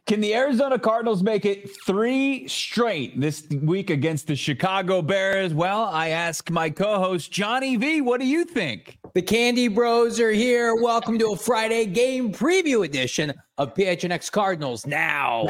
Can the Arizona Cardinals make it 3 straight this week against the Chicago Bears? Well, I ask my co-host, Johnny V, what do you think? The Candy Bros are here. Welcome to a Friday game preview edition of PHNX Cardinals Now.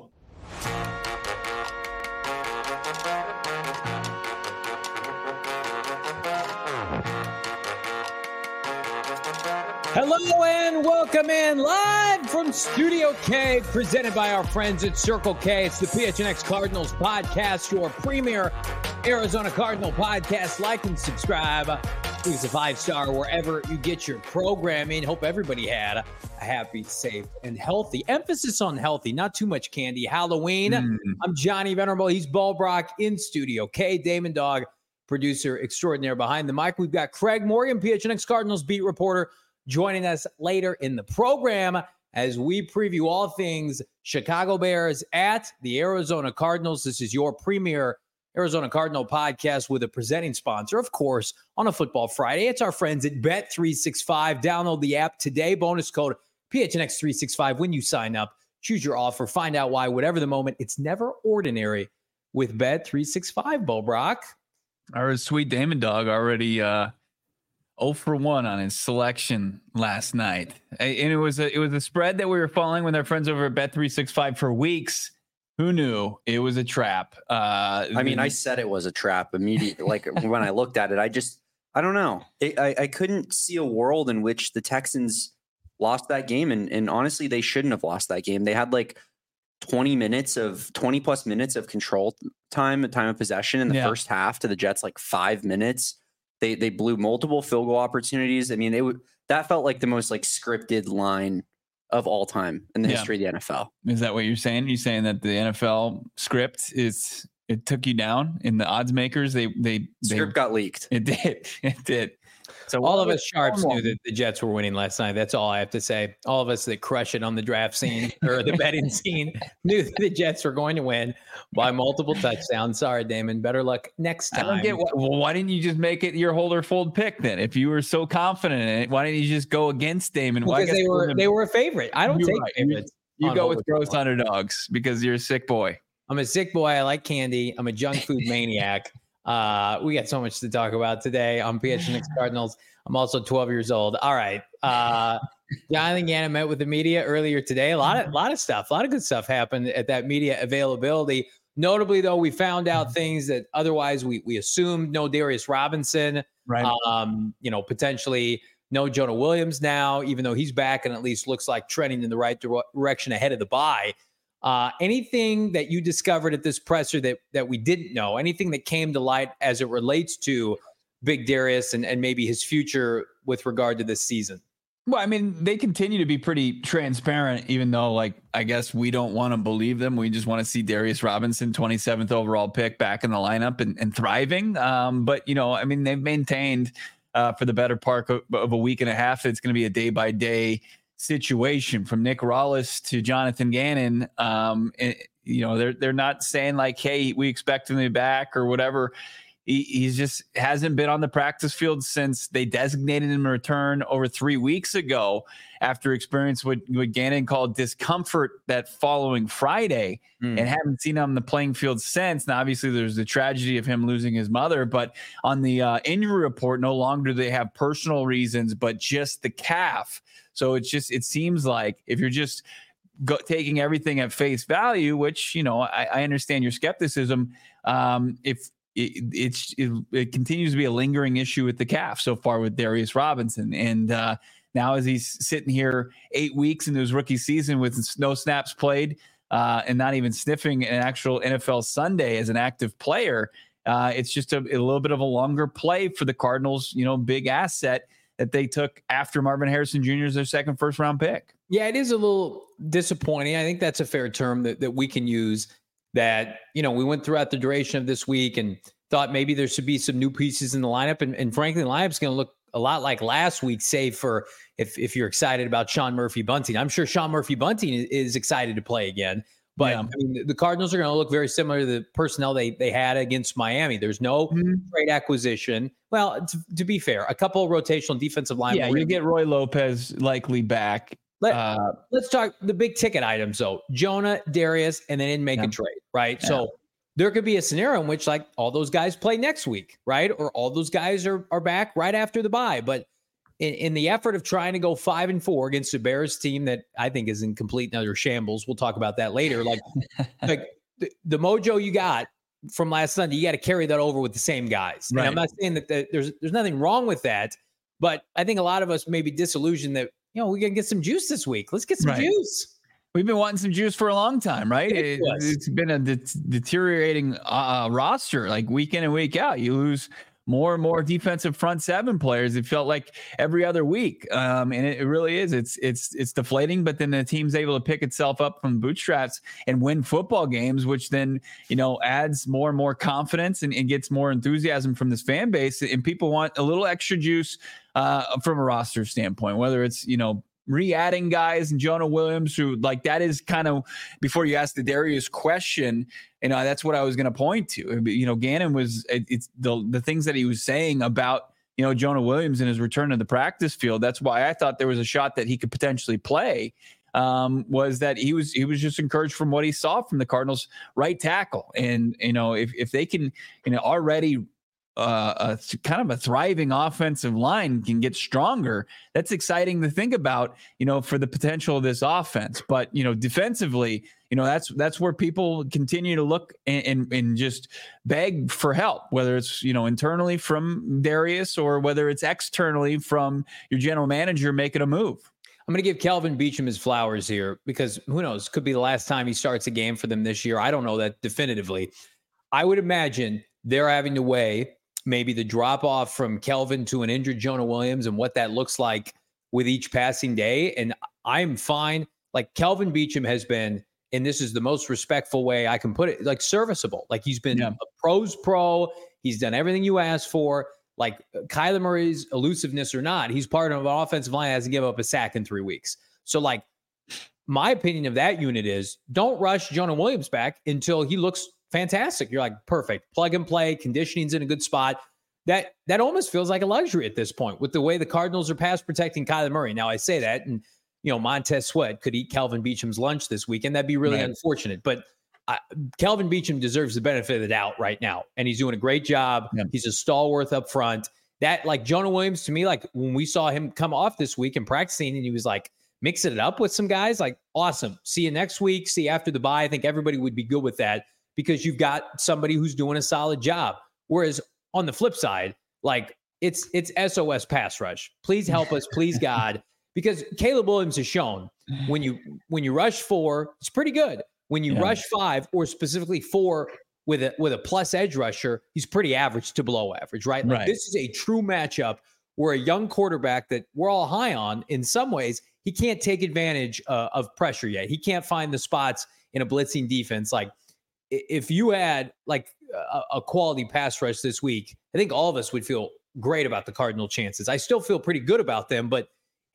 Hello and welcome in live from Studio K, presented by our friends at Circle K. It's the PHNX Cardinals podcast, your premier Arizona Cardinal podcast. Like and subscribe. Please a 5-star wherever you get your programming. Hope everybody had a happy, safe, and healthy. Emphasis on healthy, not too much candy. Halloween. I'm Johnny Venerable. He's Ball Brock in Studio K. Damon Dog, producer extraordinaire behind the mic. We've got Craig Morgan, PHNX Cardinals beat reporter, joining us later in the program as we preview all things Chicago Bears at the Arizona Cardinals. This is your premier Arizona Cardinal podcast with a presenting sponsor, of course, on a Football Friday. It's our friends at Bet365. Download the app today. Bonus code PHNX365 when you sign up. Choose your offer. Find out why. Whatever the moment, it's never ordinary with Bet365, Bo Brock. Our sweet Damon Dog already 0 for 1 on his selection last night. And it was a spread that we were following with our friends over at Bet365 for weeks. Who knew it was a trap? I said it was a trap immediately. Like when I looked at it, I don't know. I couldn't see a world in which the Texans lost that game. And honestly, they shouldn't have lost that game. They had like 20 plus minutes of control time of possession in the first half to the Jets, like 5 minutes. They blew multiple field goal opportunities. I mean, that felt like the most like scripted line of all time in the history of the NFL. Is that what you're saying? You're saying that the NFL script it took you down in the odds makers? They script got leaked. It did. So all of us sharps knew that the Jets were winning last night. That's all I have to say. All of us that crush it on the draft scene or the betting scene knew that the Jets were going to win by multiple touchdowns. Sorry, Damon. Better luck next time. I don't get why didn't you just make it your hold or fold pick then? If you were so confident in it, why didn't you just go against Damon? Because they were a favorite. I don't take favorites. You go with gross underdogs because you're a sick boy. I'm a sick boy. I like candy. I'm a junk food maniac. We got so much to talk about today on PHNX Cardinals. I'm also 12 years old. All right. Jonathan Gannon met with the media earlier today. A lot of stuff, a lot of good stuff happened at that media availability. Notably, though, we found out things that otherwise we assumed. No Darius Robinson, right? Potentially no Jonah Williams now, even though he's back and at least looks like trending in the right direction ahead of the bye. Anything that you discovered at this presser that we didn't know, anything that came to light as it relates to Big Darius and maybe his future with regard to this season? Well, I mean, they continue to be pretty transparent, even though, I guess we don't want to believe them. We just want to see Darius Robinson, 27th overall pick, back in the lineup and thriving. But, they've maintained for the better part of a week and a half that it's going to be a day-by-day situation from Nick Rallis to Jonathan Gannon. They're not saying hey, we expect him to be back or whatever. He's just hasn't been on the practice field since they designated him a return over 3 weeks ago after experience what Gannon called discomfort that following Friday and haven't seen him on the playing field since. Now, obviously, there's the tragedy of him losing his mother, but on the injury report, no longer do they have personal reasons, but just the calf. So it seems like if you're just taking everything at face value, which, I understand your skepticism, it continues to be a lingering issue with the calf so far with Darius Robinson. And now as he's sitting here 8 weeks into his rookie season with no snaps played and not even sniffing an actual NFL Sunday as an active player, it's just a little bit of a longer play for the Cardinals, big asset that they took after Marvin Harrison Jr. as their second first-round pick. Yeah, it is a little disappointing. I think that's a fair term that we can use. That, we went throughout the duration of this week and thought maybe there should be some new pieces in the lineup. And frankly, the lineup's going to look a lot like last week, save for if you're excited about Sean Murphy-Bunting. I'm sure Sean Murphy-Bunting is excited to play again. But the Cardinals are going to look very similar to the personnel they had against Miami. There's no trade acquisition. Well, to be fair, a couple of rotational defensive linemen. Yeah, you get Roy Lopez likely back. Let's talk the big ticket items, though. Jonah, Darius, and they didn't make a trade, right? Yeah. So there could be a scenario in which, like, all those guys play next week, right? Or all those guys are back right after the bye. But in the effort of trying to go 5-4 against the Bears team that I think is in complete and utter shambles, we'll talk about that later. Like the mojo you got from last Sunday, you got to carry that over with the same guys. Right. And I'm not saying that there's nothing wrong with that, but I think a lot of us may be disillusioned that, we're going to get some juice this week. Let's get some juice. We've been wanting some juice for a long time, right? It's been a deteriorating roster, like week in and week out. You lose more and more defensive front seven players. It felt like every other week. And it really is. It's deflating, but then the team's able to pick itself up from bootstraps and win football games, which then, adds more and more confidence and gets more enthusiasm from this fan base. And people want a little extra juice from a roster standpoint, whether it's, re-adding guys and Jonah Williams, who like that is kind of, before you ask the Darius question, that's what I was going to point to. Gannon it's the things that he was saying about, Jonah Williams and his return to the practice field. That's why I thought there was a shot that he could potentially play, was that he was just encouraged from what he saw from the Cardinals right tackle. And, if they can, already a kind of a thriving offensive line can get stronger, that's exciting to think about, for the potential of this offense. But, defensively, that's where people continue to look and just beg for help, whether it's, internally from Darius or whether it's externally from your general manager making a move. I'm going to give Kelvin Beachum his flowers here because who knows, could be the last time he starts a game for them this year. I don't know that definitively. I would imagine they're having to weigh maybe the drop off from Kelvin to an injured Jonah Williams and what that looks like with each passing day. And I'm fine. Like Kelvin Beachum has been, and this is the most respectful way I can put it, like serviceable. Like he's been a pro's pro. He's done everything you asked for. Like Kyler Murray's elusiveness or not, he's part of an offensive line that hasn't given up a sack in 3 weeks. So like my opinion of that unit is don't rush Jonah Williams back until he looks fantastic. You're like, perfect. Plug and play. Conditioning's in a good spot. That almost feels like a luxury at this point with the way the Cardinals are pass protecting Kyler Murray. Now I say that, and Montez Sweat could eat Kelvin Beachum's lunch this week, and that'd be really unfortunate. But Kelvin Beachum deserves the benefit of the doubt right now, and he's doing a great job. Yeah. He's a stalwart up front. That like Jonah Williams to me, like when we saw him come off this week and practicing, and he was like mixing it up with some guys, like awesome. See you next week. See you after the bye. I think everybody would be good with that, because you've got somebody who's doing a solid job. Whereas on the flip side, like it's SOS pass rush. Please help us, please God, because Caleb Williams has shown when you rush 4, it's pretty good. When you rush 5 or specifically 4 with a plus edge rusher, he's pretty average to below average, right? Like this is a true matchup where a young quarterback that we're all high on in some ways, he can't take advantage of pressure yet. He can't find the spots in a blitzing defense. Like, if you had like a quality pass rush this week, I think all of us would feel great about the Cardinal chances. I still feel pretty good about them, but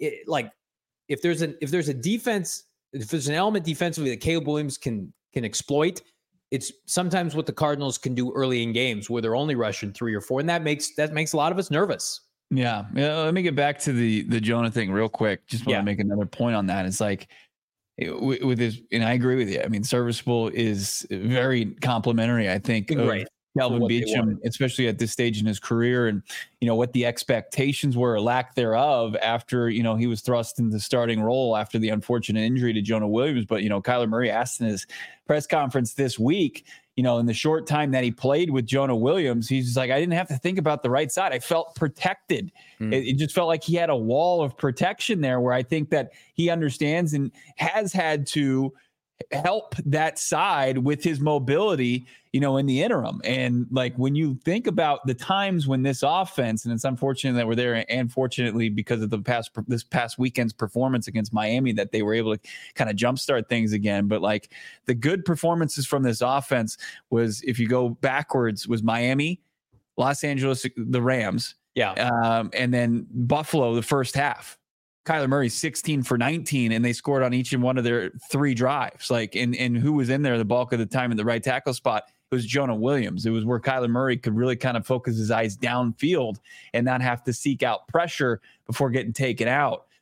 if there's a defense, if there's an element defensively that Caleb Williams can exploit, it's sometimes what the Cardinals can do early in games where they're only rushing 3 or 4, and that makes a lot of us nervous. Yeah. Let me get back to the Jonah thing real quick. Just want to make another point on that. It's like, with his, and I agree with you. I mean, serviceable is very complimentary, I think, great. Kelvin Beachum, especially at this stage in his career, and what the expectations were or lack thereof after he was thrust into the starting role after the unfortunate injury to Jonah Williams. But Kyler Murray asked in his press conference this week, in the short time that he played with Jonah Williams, he's just like, I didn't have to think about the right side. I felt protected. It just felt like he had a wall of protection there, where I think that he understands and has had to help that side with his mobility, in the interim. And like, when you think about the times when this offense, and it's unfortunate that we're there, and fortunately because of this past weekend's performance against Miami, that they were able to kind of jumpstart things again. But like the good performances from this offense was, if you go backwards, was Miami, Los Angeles, the Rams, and then Buffalo the first half. Kyler Murray 16 for 19, and they scored on each and one of their 3 drives. Like, and who was in there the bulk of the time in the right tackle spot? It was Jonah Williams. It was where Kyler Murray could really kind of focus his eyes downfield and not have to seek out pressure before getting taken out.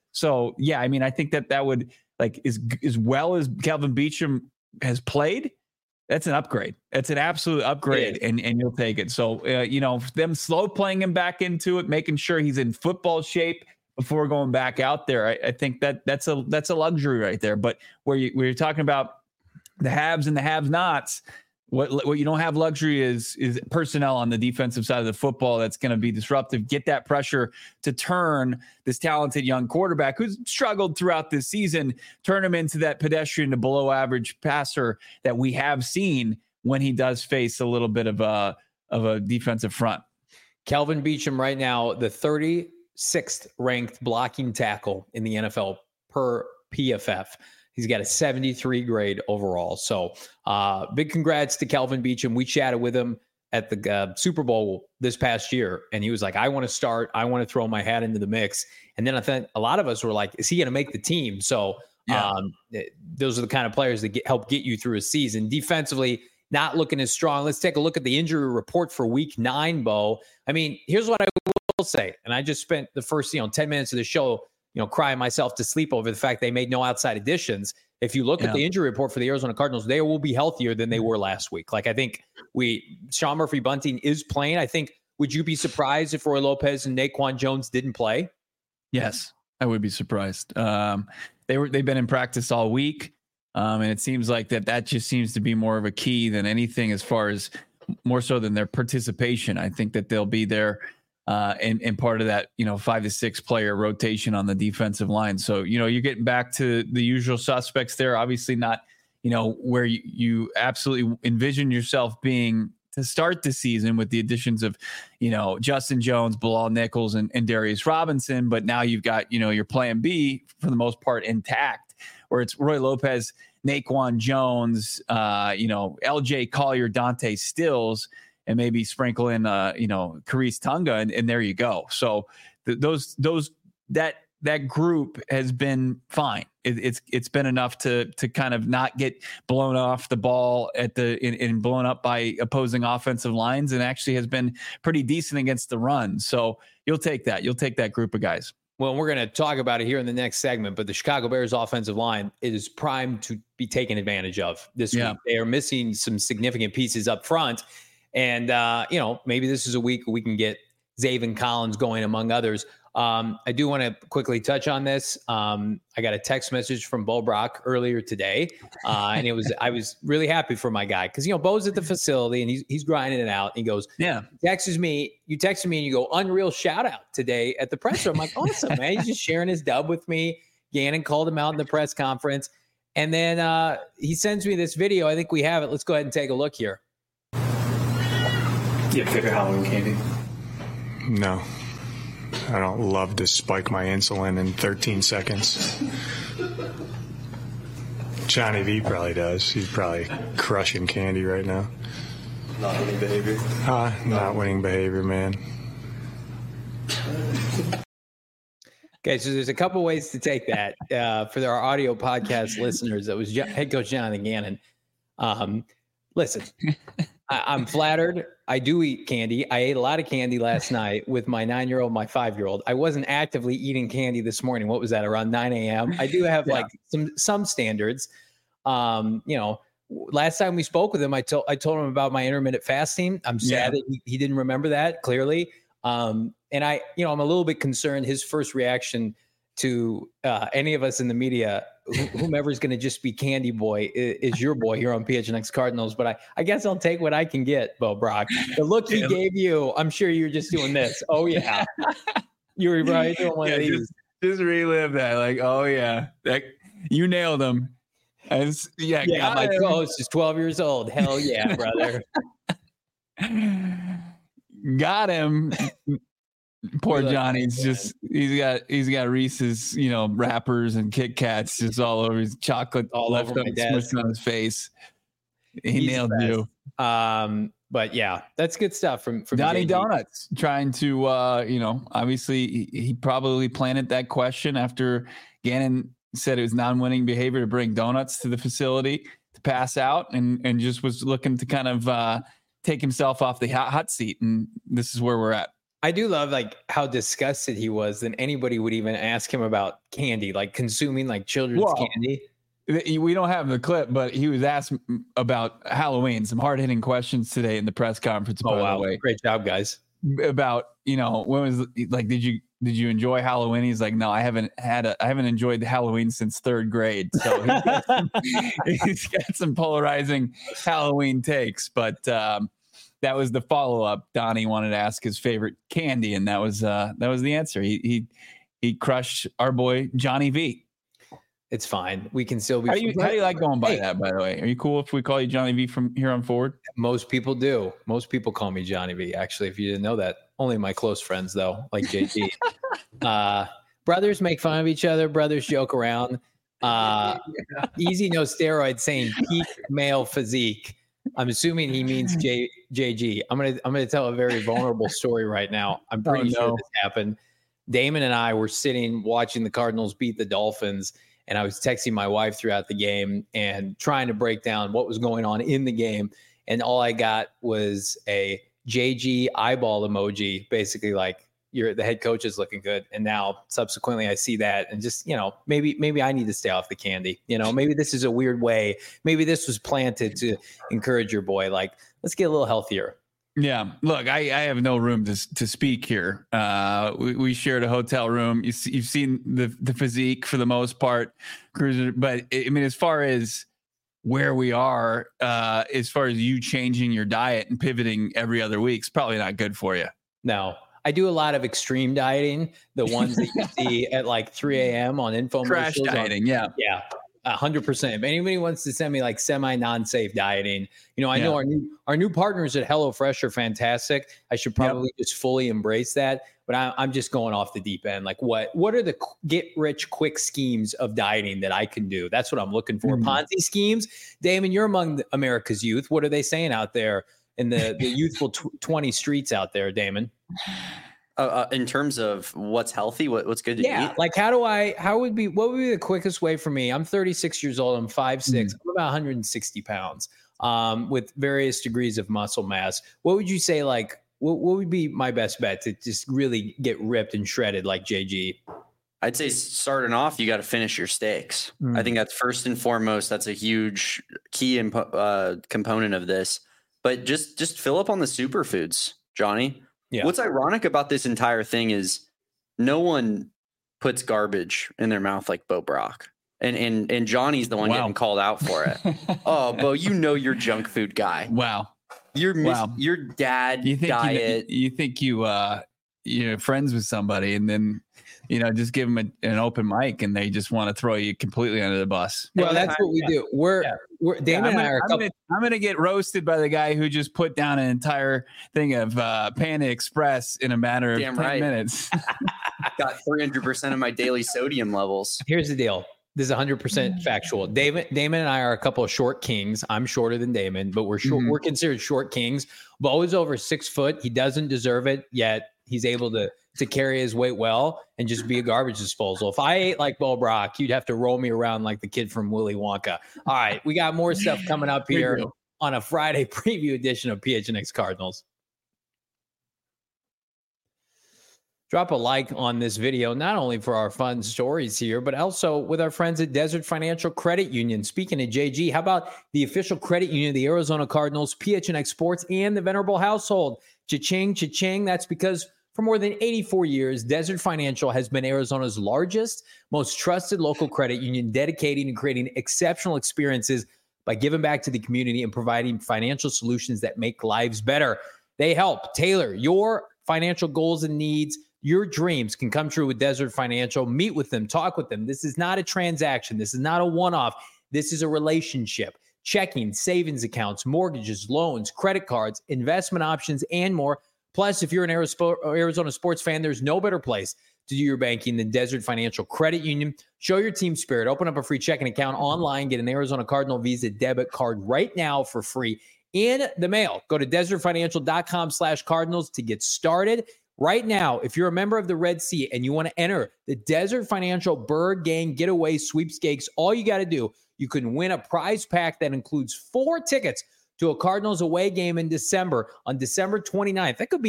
So yeah, I mean, I think that would like as well as Kelvin Beachum has played. That's an upgrade. That's an absolute upgrade, and you'll take it. So, them slow playing him back into it, making sure he's in football shape before going back out there. I think that's a luxury right there. But where you're talking about the haves and the have-nots, what you don't have luxury is personnel on the defensive side of the football that's going to be disruptive. Get that pressure to turn this talented young quarterback who's struggled throughout this season, turn him into that pedestrian to below average passer that we have seen when he does face a little bit of a defensive front. Kelvin Beachum right now, the 36th ranked blocking tackle in the NFL per PFF. He's got a 73 grade overall. So big congrats to Kelvin Beachum. We chatted with him at the Super Bowl this past year, and he was like, I want to start. I want to throw my hat into the mix. And then I think a lot of us were like, is he going to make the team? So those are the kind of players that help get you through a season. Defensively, not looking as strong. Let's take a look at the injury report for week 9, Bo. I mean, here's what I will say. And I just spent the first 10 minutes of the show crying myself to sleep over the fact they made no outside additions. If you look at the injury report for the Arizona Cardinals, they will be healthier than they were last week. Like, I think Sean Murphy-Bunting is playing. I think, would you be surprised if Roy Lopez and Naquan Jones didn't play? Yes, I would be surprised. They've been in practice all week. And it seems like that just seems to be more of a key than anything, as far as more so than their participation. I think that they'll be there and part of that, 5 to 6 player rotation on the defensive line. So, you're getting back to the usual suspects there. Obviously not, where you absolutely envision yourself being to start the season with the additions of, Justin Jones, Bilal Nichols, and Darius Robinson. But now you've got, your plan B for the most part intact, where it's Roy Lopez, Naquan Jones, LJ Collier, Dante Stills, and maybe sprinkle in, Khariz Tonga, and there you go. So that group has been fine. It's been enough to kind of not get blown off the ball and blown up by opposing offensive lines, and actually has been pretty decent against the run. So you'll take that. You'll take that group of guys. Well, we're going to talk about it here in the next segment, but the Chicago Bears offensive line is primed to be taken advantage of this week. They are missing some significant pieces up front. And, maybe this is a week we can get Zaven Collins going, among others. I do want to quickly touch on this. I got a text message from Bo Brock earlier today, and I was really happy for my guy because Bo's at the facility and he's grinding it out. And he goes, you texted me and you go, unreal shout out today at the presser. I'm like, awesome, man. He's just sharing his dub with me. Gannon called him out in the press conference, and then he sends me this video. I think we have it. Let's go ahead and take a look here. You have favorite Halloween candy? No. I don't love to spike my insulin in 13 seconds. Johnny V probably does. He's probably crushing candy right now. Not winning behavior? Not winning behavior, man. Okay, so there's a couple ways to take that. For our audio podcast listeners, that was head coach Jonathan Gannon. Listen, I'm flattered. I do eat candy. I ate a lot of candy last night with my 9-year-old, my 5-year-old. I wasn't actively eating candy this morning. What was that, around 9 a.m.? I do have like some standards. Last time we spoke with him, I told him about my intermittent fasting. I'm sad that he didn't remember that clearly. And I'm a little bit concerned. His first reaction to any of us in the media, whomever is going to just be Candy Boy, is your boy here on PHNX Cardinals. But I guess I'll take what I can get, Bo Brock. The look he gave you, I'm sure you're just doing this. Oh, yeah. You were probably doing one of these. Just relive that. Like, oh, yeah. You nailed him. My co-host is 12 years old. Hell yeah, brother. Got him. Poor Johnny's he's got Reese's, wrappers and Kit Kats just all over his chocolate all over my desk on his face. He's nailed you. But yeah, that's good stuff from Donnie Donuts trying to obviously he probably planted that question after Gannon said it was non-winning behavior to bring donuts to the facility to pass out and just was looking to kind of take himself off the hot seat. And this is where we're at. I do love like how disgusted he was that anybody would even ask him about candy, like consuming like children's candy. We don't have the clip, but he was asked about Halloween, some hard hitting questions today in the press conference. Oh, by wow. the way, Great job, guys. About, when was like, did you enjoy Halloween? He's like, no, I haven't enjoyed Halloween since third grade. So he's got some polarizing Halloween takes, but that was the follow up. Donnie wanted to ask his favorite candy, and that was the answer. He crushed our boy Johnny V. It's fine. We can still be. How do you like going by that, by the way? Are you cool if we call you Johnny V from here on forward? Most people do. Most people call me Johnny V. Actually, if you didn't know that, only my close friends though, like JG. Brothers make fun of each other. Brothers joke around. Easy no steroids saying peak male physique. I'm assuming he means JG. I'm gonna tell a very vulnerable story right now. I'm pretty sure this happened. Damon and I were sitting watching the Cardinals beat the Dolphins. And I was texting my wife throughout the game and trying to break down what was going on in the game. And all I got was a JG eyeball emoji, basically like the head coach is looking good. And now subsequently I see that and just, maybe I need to stay off the candy. Maybe this is a weird way. Maybe this was planted to encourage your boy. Like, let's get a little healthier. Yeah, look, I have no room to speak here. We shared a hotel room. You've seen the physique for the most part, Cruiser. But I mean, as far as where we are, as far as you changing your diet and pivoting every other week, it's probably not good for you. No, I do a lot of extreme dieting, the ones that you see at like 3 a.m. on infomercials. Crash dieting, yeah. 100%. If anybody wants to send me like semi non-safe dieting, I know our new partners at HelloFresh are fantastic. I should probably just fully embrace that. But I'm just going off the deep end. Like what are the get rich quick schemes of dieting that I can do? That's what I'm looking for. Ponzi schemes. Damon, you're among America's youth. What are they saying out there in the youthful 20 streets out there, Damon? In terms of what's healthy, what's good to eat? Like what would be the quickest way for me? I'm 36 years old. I'm 5'6". I'm about 160 pounds with various degrees of muscle mass. What would you say, like, what would be my best bet to just really get ripped and shredded like JG? I'd say starting off, you got to finish your steaks. I think that's first and foremost. That's a huge key component of this. But just fill up on the superfoods, Johnny. Yeah. What's ironic about this entire thing is no one puts garbage in their mouth like Bo Brock. And Johnny's the one getting called out for it. Oh, Bo, you're junk food guy. Wow. Your dad diet. You think you're friends with somebody and then, just give them an open mic and they just want to throw you completely under the bus. Well, that's what we do. We're Damon and I are I'm going to get roasted by the guy who just put down an entire thing of Panda Express in a matter of 10 minutes. Got 300% of my daily sodium levels. Here's the deal. This is 100% factual. Damon and I are a couple of short kings. I'm shorter than Damon, but we're short. We're considered short kings. Bo is over 6 foot. He doesn't deserve it, yet he's able to carry his weight well and just be a garbage disposal. If I ate like Bo Brock, you'd have to roll me around like the kid from Willy Wonka. All right, we got more stuff coming up here on a Friday preview edition of PHNX Cardinals. Drop a like on this video, not only for our fun stories here, but also with our friends at Desert Financial Credit Union. Speaking of JG, how about the official credit union of the Arizona Cardinals, PHNX Sports, and the Venerable household? Cha-ching, cha-ching. That's because for more than 84 years, Desert Financial has been Arizona's largest, most trusted local credit union, dedicating and creating exceptional experiences by giving back to the community and providing financial solutions that make lives better. They help tailor your financial goals and needs. Your dreams can come true with Desert Financial. Meet with them, talk with them. This is not a transaction. This is not a one-off. This is a relationship. Checking, savings accounts, mortgages, loans, credit cards, investment options, and more. Plus, if you're an Arizona sports fan, there's no better place to do your banking than Desert Financial Credit Union. Show your team spirit. Open up a free checking account online. Get an Arizona Cardinal Visa debit card right now for free in the mail. Go to desertfinancial.com/Cardinals to get started. Right now, if you're a member of the Red Sea and you want to enter the Desert Financial Bird Gang Getaway Sweepstakes, all you got to do, you can win a prize pack that includes 4 tickets to a Cardinals away game in December, on December 29th. That could be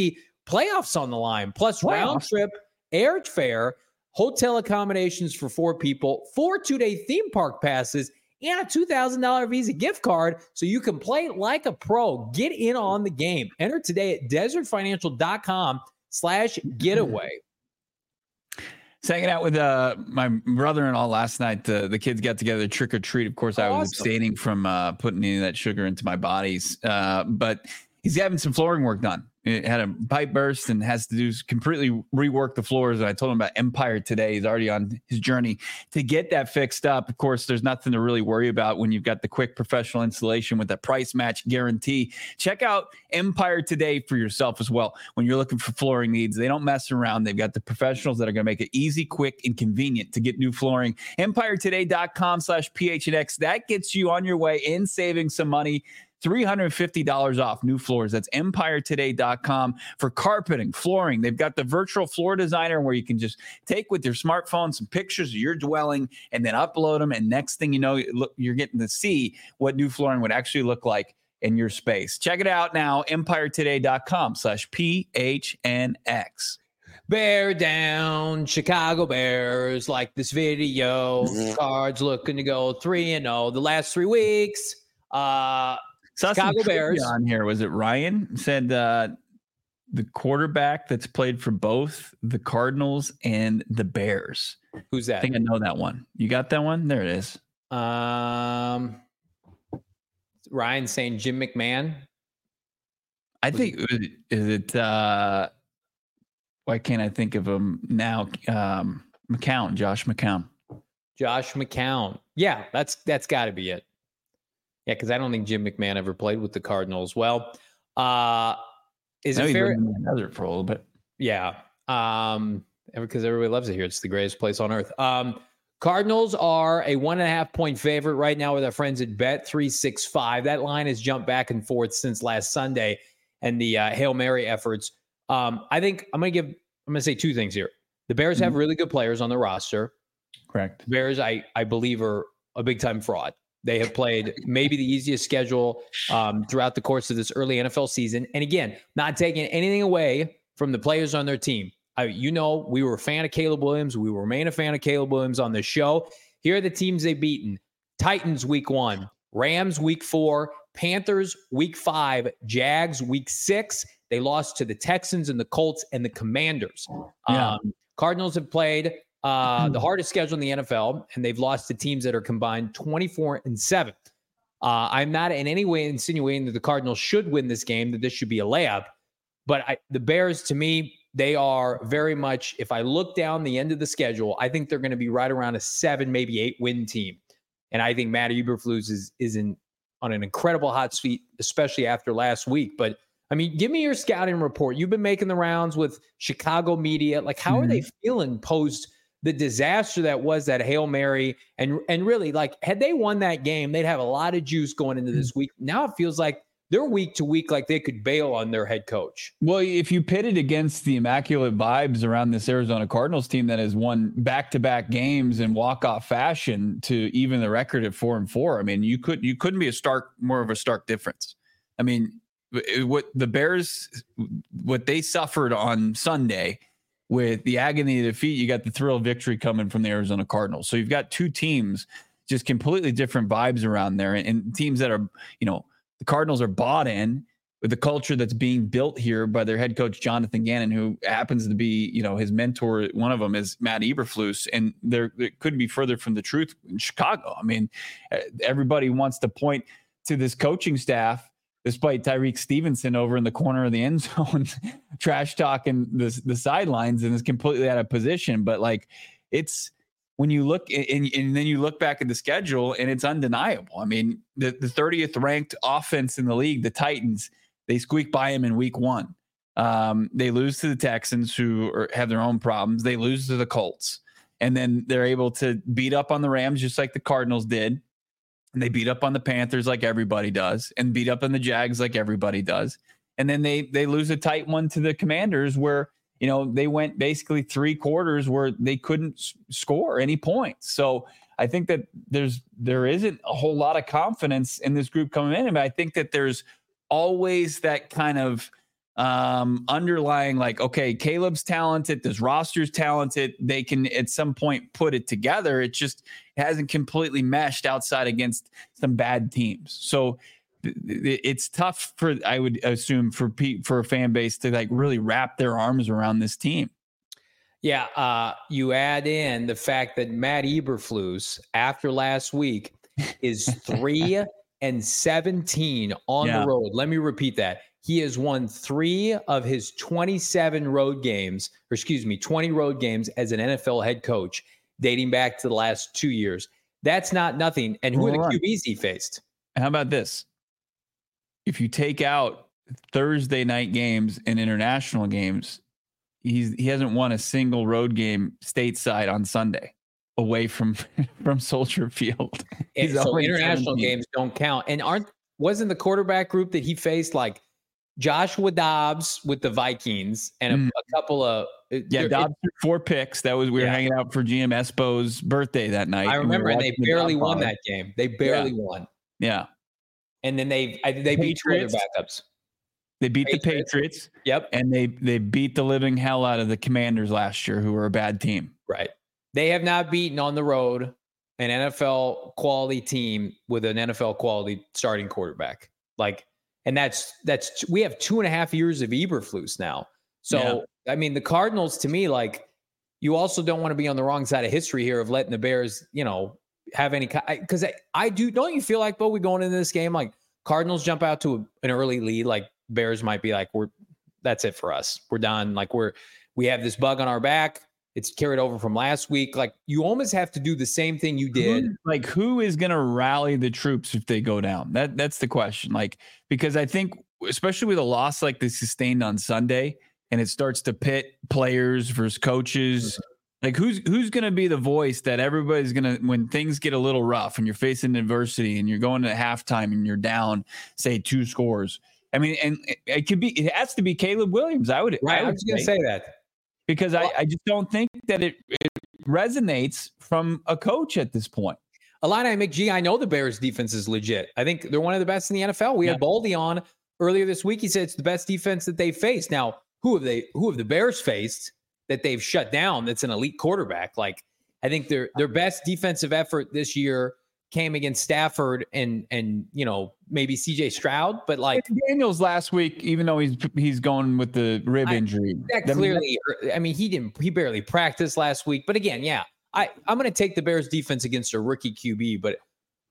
Playoffs on the line, plus round trip airfare, hotel accommodations for 4 people, 4 2-day theme park passes, and a $2,000 Visa gift card so you can play like a pro. Get in on the game. Enter today at desertfinancial.com/getaway. Hanging out with my brother-in-law last night. The kids got together, trick or treat. Of course, I was abstaining from putting any of that sugar into my bodies. But he's having some flooring work done. It had a pipe burst and has to do completely rework the floors. And I told him about Empire today. He's already on his journey to get that fixed up. Of course, there's nothing to really worry about when you've got the quick professional installation with that price match guarantee. Check out Empire today for yourself as well. When you're looking for flooring needs, they don't mess around. They've got the professionals that are going to make it easy, quick, and convenient to get new flooring. EmpireToday.com/PHNX. That gets you on your way and saving some money. $350 off new floors. That's EmpireToday.com for carpeting, flooring. They've got the virtual floor designer where you can just take with your smartphone some pictures of your dwelling and then upload them. And next thing you know, you're getting to see what new flooring would actually look like in your space. Check it out now, EmpireToday.com/PHNX. Bear down, Chicago Bears. Like this video. Cards looking to go 3-0 the last 3 weeks. Chicago Bears on here. Was it Ryan said the quarterback that's played for both the Cardinals and the Bears? Who's that? I think I know that one. You got that one? There it is. Ryan saying Jim McMahon. I think is it why can't I think of him now? McCown, Josh McCown. Josh McCown. Yeah, that's got to be it. Yeah, because I don't think Jim McMahon ever played with the Cardinals. Well, is it fair? Another for a little bit. Yeah, because everybody loves it here. It's the greatest place on earth. Cardinals are a 1.5-point favorite right now with our friends at Bet365. That line has jumped back and forth since last Sunday and the Hail Mary efforts. I think I'm going to say 2 things here. The Bears have really good players on their roster. Correct. The Bears, I believe, are a big-time fraud. They have played maybe the easiest schedule throughout the course of this early NFL season. And again, not taking anything away from the players on their team. We were a fan of Caleb Williams. We remain a fan of Caleb Williams on this show. Here are the teams they've beaten. Titans week 1, Rams week 4, Panthers week 5, Jags week 6. They lost to the Texans and the Colts and the Commanders. Yeah. Cardinals have played the hardest schedule in the NFL, and they've lost to teams that are combined 24-7. I'm not in any way insinuating that the Cardinals should win this game, that this should be a layup. But the Bears, to me, they are very much, if I look down the end of the schedule, I think they're going to be right around a 7, maybe 8-win team. And I think Matt Eberflus is on an incredible hot seat, especially after last week. But I mean, give me your scouting report. You've been making the rounds with Chicago media. Like, how are they feeling post the disaster that was that Hail Mary? And really, like, had they won that game, they'd have a lot of juice going into this week. Now it feels like they're week to week, like they could bail on their head coach. Well, if you pit it against the immaculate vibes around this Arizona Cardinals team that has won back-to-back games in walk-off fashion to even the record at 4-4, I mean, you couldn't be more of a stark difference. I mean, what the Bears, what they suffered on Sunday with the agony of defeat, you got the thrill of victory coming from the Arizona Cardinals. So you've got 2 teams, just completely different vibes around there, and teams that are, the Cardinals are bought in with the culture that's being built here by their head coach, Jonathan Gannon, who happens to be, his mentor. One of them is Matt Eberflus, and it couldn't be further from the truth in Chicago. I mean, everybody wants to point to this coaching staff, despite Tyreek Stevenson over in the corner of the end zone, trash talking the sidelines, and is completely out of position. But like, it's when you look and then you look back at the schedule, and it's undeniable. I mean, the 30th ranked offense in the league, the Titans, they squeak by him in week 1. They lose to the Texans, who have their own problems. They lose to the Colts, and then they're able to beat up on the Rams just like the Cardinals did. And they beat up on the Panthers like everybody does, and beat up on the Jags like everybody does. And then they lose a tight one to the Commanders, where, they went basically 3 quarters where they couldn't score any points. So I think that there isn't a whole lot of confidence in this group coming in. But I think that there's always that kind of underlying, like, okay, Caleb's talented, this roster's talented. They can at some point put it together. It just hasn't completely meshed outside against some bad teams. So it's tough for, I would assume, for a fan base to like really wrap their arms around this team. Yeah. You add in the fact that Matt Eberflus, after last week, is 3-17 on the road. Let me repeat that. He has won 3 of his 27 road games, 20 road games as an NFL head coach, dating back to the last 2 years. That's not nothing. And who are the QBs he faced? How about this? If you take out Thursday night games and international games, he hasn't won a single road game stateside on Sunday away from Soldier Field. So international games don't count. And wasn't the quarterback group that he faced like Joshua Dobbs with the Vikings and a couple of Dobbs threw 4 picks. That was we were hanging out for GM Espo's birthday that night. I remember, and they barely won that game. They barely won. Yeah. And then they beat 2 other backups. They beat the Patriots. Yep. And they beat the living hell out of the Commanders last year, who were a bad team. Right. They have not beaten on the road an NFL quality team with an NFL quality starting quarterback. And that's we have 2.5 years of Eberflus now. So, I mean, the Cardinals, to me, like, you also don't want to be on the wrong side of history here of letting the Bears, have any, because I do. Don't you feel like, Bo, we going into this game, like Cardinals jump out to an early lead, like Bears might be like, that's it for us. We're done. Like we have this bug on our back. It's carried over from last week. Like, you almost have to do the same thing you did. Who is going to rally the troops if they go down? That's the question. Like, because I think, especially with a loss like they sustained on Sunday, and it starts to pit players versus coaches, like who's going to be the voice that everybody's going to, when things get a little rough and you're facing adversity and you're going to halftime and you're down, say 2 scores. I mean, and it has to be Caleb Williams. I was going to say that. Because I just don't think that it resonates from a coach at this point. Illini McGee, I know the Bears defense is legit. I think they're one of the best in the NFL. We had Baldy on earlier this week. He said it's the best defense that they've faced. Now, who have the Bears faced that they've shut down that's an elite quarterback? Like, I think their best defensive effort this year came against Stafford and maybe CJ Stroud, but like Daniels last week, even though he's going with the rib injury, that clearly, he barely practiced last week. But again, I'm going to take the Bears defense against a rookie QB. But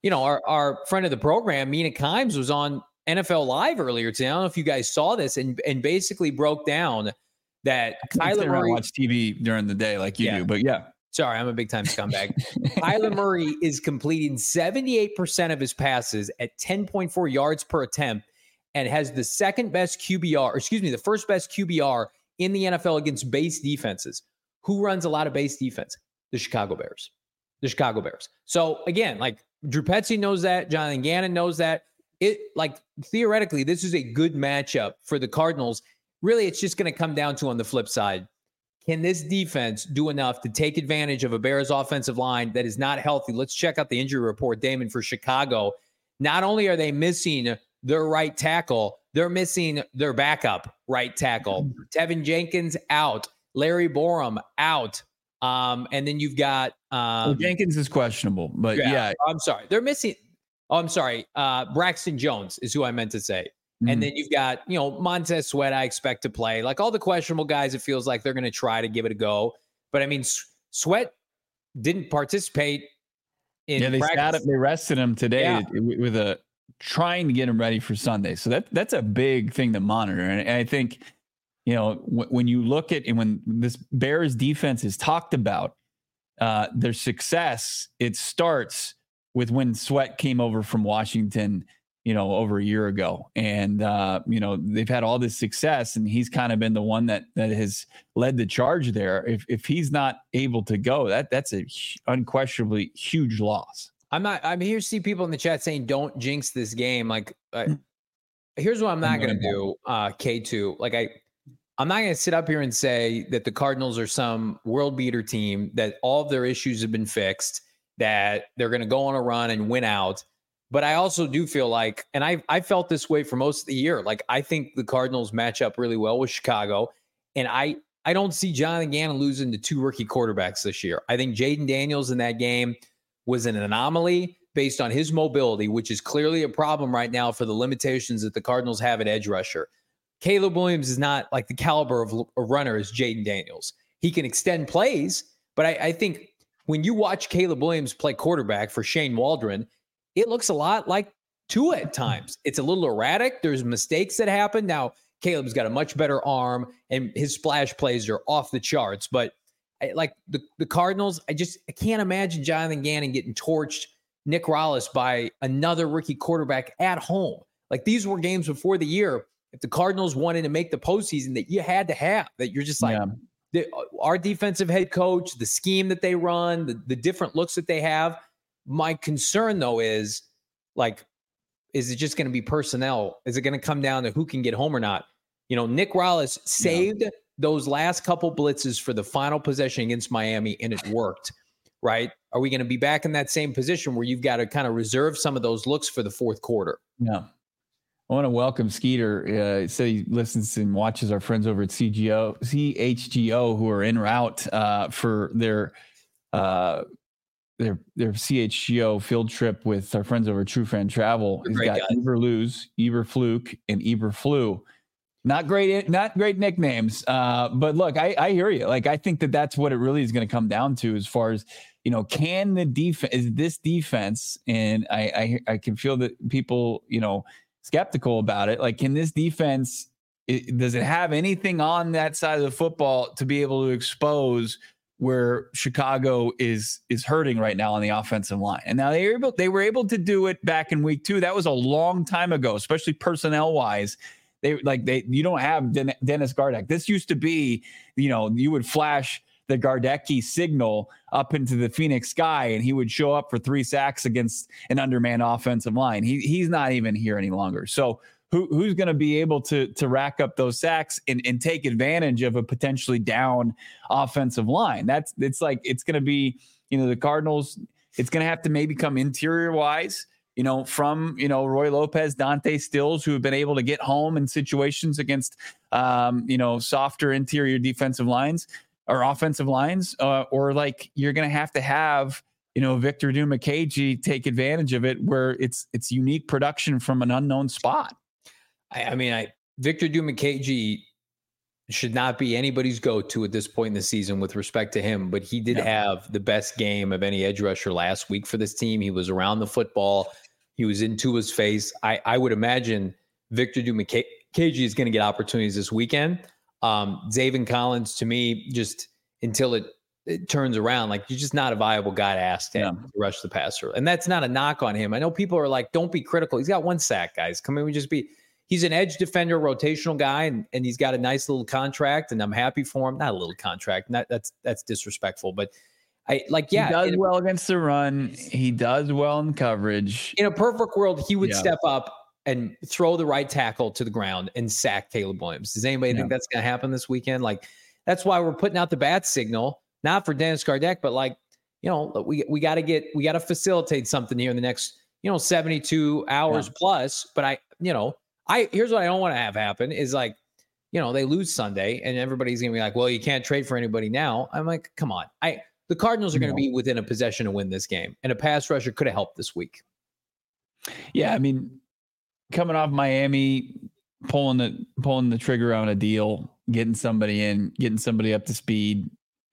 our friend of the program, Mina Kimes, was on NFL Live earlier today. I don't know if you guys saw this, and basically broke down that Kyler Murray watch TV during the day like you do, but yeah. Sorry, I'm a big-time scumbag. Kyler Murray is completing 78% of his passes at 10.4 yards per attempt and has the the first best QBR in the NFL against base defenses. Who runs a lot of base defense? The Chicago Bears. So, again, like, Drew Petzing knows that. Jonathan Gannon knows that. Theoretically, this is a good matchup for the Cardinals. Really, it's just going to come down to, on the flip side, can this defense do enough to take advantage of a Bears offensive line that is not healthy? Let's check out the injury report, Damon, for Chicago. Not only are they missing their right tackle, they're missing their backup right tackle. Tevin Jenkins out. Larry Borum out. And then you've got Jenkins is questionable, but yeah. I'm sorry. They're missing. Braxton Jones is who I meant to say. And then you've got, Montez Sweat, I expect to play. Like, all the questionable guys, it feels like they're going to try to give it a go. But, I mean, Sweat didn't participate in practice. They rested him today with trying to get him ready for Sunday. So that's a big thing to monitor. And I think, when you look at, and when this Bears defense is talked about, their success, it starts with when Sweat came over from Washington, over a year ago. And, they've had all this success, and he's kind of been the one that has led the charge there. If he's not able to go, that's a unquestionably huge loss. I'm here to see people in the chat saying, don't jinx this game. Like, here's what I'm not going to do, K2. Like, I'm not going to sit up here and say that the Cardinals are some world beater team, that all of their issues have been fixed, that they're going to go on a run and win out. But I also do feel like, and I felt this way for most of the year, like I think the Cardinals match up really well with Chicago. And I don't see Jonathan Gannon losing to 2 rookie quarterbacks this year. I think Jaden Daniels in that game was an anomaly based on his mobility, which is clearly a problem right now for the limitations that the Cardinals have at edge rusher. Caleb Williams is not like the caliber of a runner as Jaden Daniels. He can extend plays, but I think when you watch Caleb Williams play quarterback for Shane Waldron, it looks a lot like Tua at times. It's a little erratic. There's mistakes that happen. Now, Caleb's got a much better arm, and his splash plays are off the charts. But like the Cardinals, I can't imagine Jonathan Gannon getting torched, Nick Rallis, by another rookie quarterback at home. Like, these were games before the year, if the Cardinals wanted to make the postseason, that you had to have, that you're just like, our defensive head coach, the scheme that they run, the different looks that they have. My concern, though, is like, is it just going to be personnel? Is it going to come down to who can get home or not? You know, Nick Rallis saved those last couple blitzes for the final possession against Miami, and it worked, right? Are we going to be back in that same position where you've got to kind of reserve some of those looks for the fourth quarter? Yeah. I want to welcome Skeeter. So he listens and watches our friends over at CHGO who are en route for their CHGO field trip with our friends over at True Fan Travel. He's got Eberluz, Eberfluke, and Eberflu. Not great nicknames. But look, I hear you. Like, I think that's what it really is going to come down to, as far as, you know, can the defense, is this defense, and I can feel that people, you know, skeptical about it. Like, can this defense, does it have anything on that side of the football to be able to expose where Chicago is hurting right now on the offensive line? And now they were able to do it back in week 2. That was a long time ago, especially personnel wise. You don't have Dennis Gardeck. This used to be, you know, you would flash the Gardecki signal up into the Phoenix sky, and he would show up for 3 sacks against an undermanned offensive line. He's not even here any longer. So who's going to be able to rack up those sacks and take advantage of a potentially down offensive line? It's going to be, you know, the Cardinals. It's going to have to maybe come interior wise, you know, from, you know, Roy Lopez, Dante Stills, who have been able to get home in situations against, you know, softer interior defensive lines or offensive lines, or like you're going to have, you know, Victor Dimukeje take advantage of it, where it's unique production from an unknown spot. I mean, Victor Dimukeje should not be anybody's go-to at this point in the season with respect to him, but he did have the best game of any edge rusher last week for this team. He was around the football. He was into his face. I would imagine Victor Dimukeje is going to get opportunities this weekend. Zaven Collins, to me, just until it turns around, like, you're just not a viable guy to ask him to rush the passer. And that's not a knock on him. I know people are like, don't be critical. He's got 1 sack, guys. Come in, he's an edge defender, rotational guy, and he's got a nice little contract, and I'm happy for him. Not a little contract. That's disrespectful, but he does well against the run. He does well in coverage. In a perfect world, he would step up and throw the right tackle to the ground and sack Caleb Williams. Does anybody think that's going to happen this weekend? Like, that's why we're putting out the bat signal, not for Dennis Gardeck, but like, you know, we got to facilitate something here in the next, you know, 72 hours plus. But here's what I don't want to have happen is, like, you know, they lose Sunday and everybody's going to be like, well, you can't trade for anybody now. I'm like, come on. The Cardinals are going to be within a possession to win this game, and a pass rusher could have helped this week. Yeah. I mean, coming off Miami, pulling the trigger on a deal, getting somebody in, getting somebody up to speed,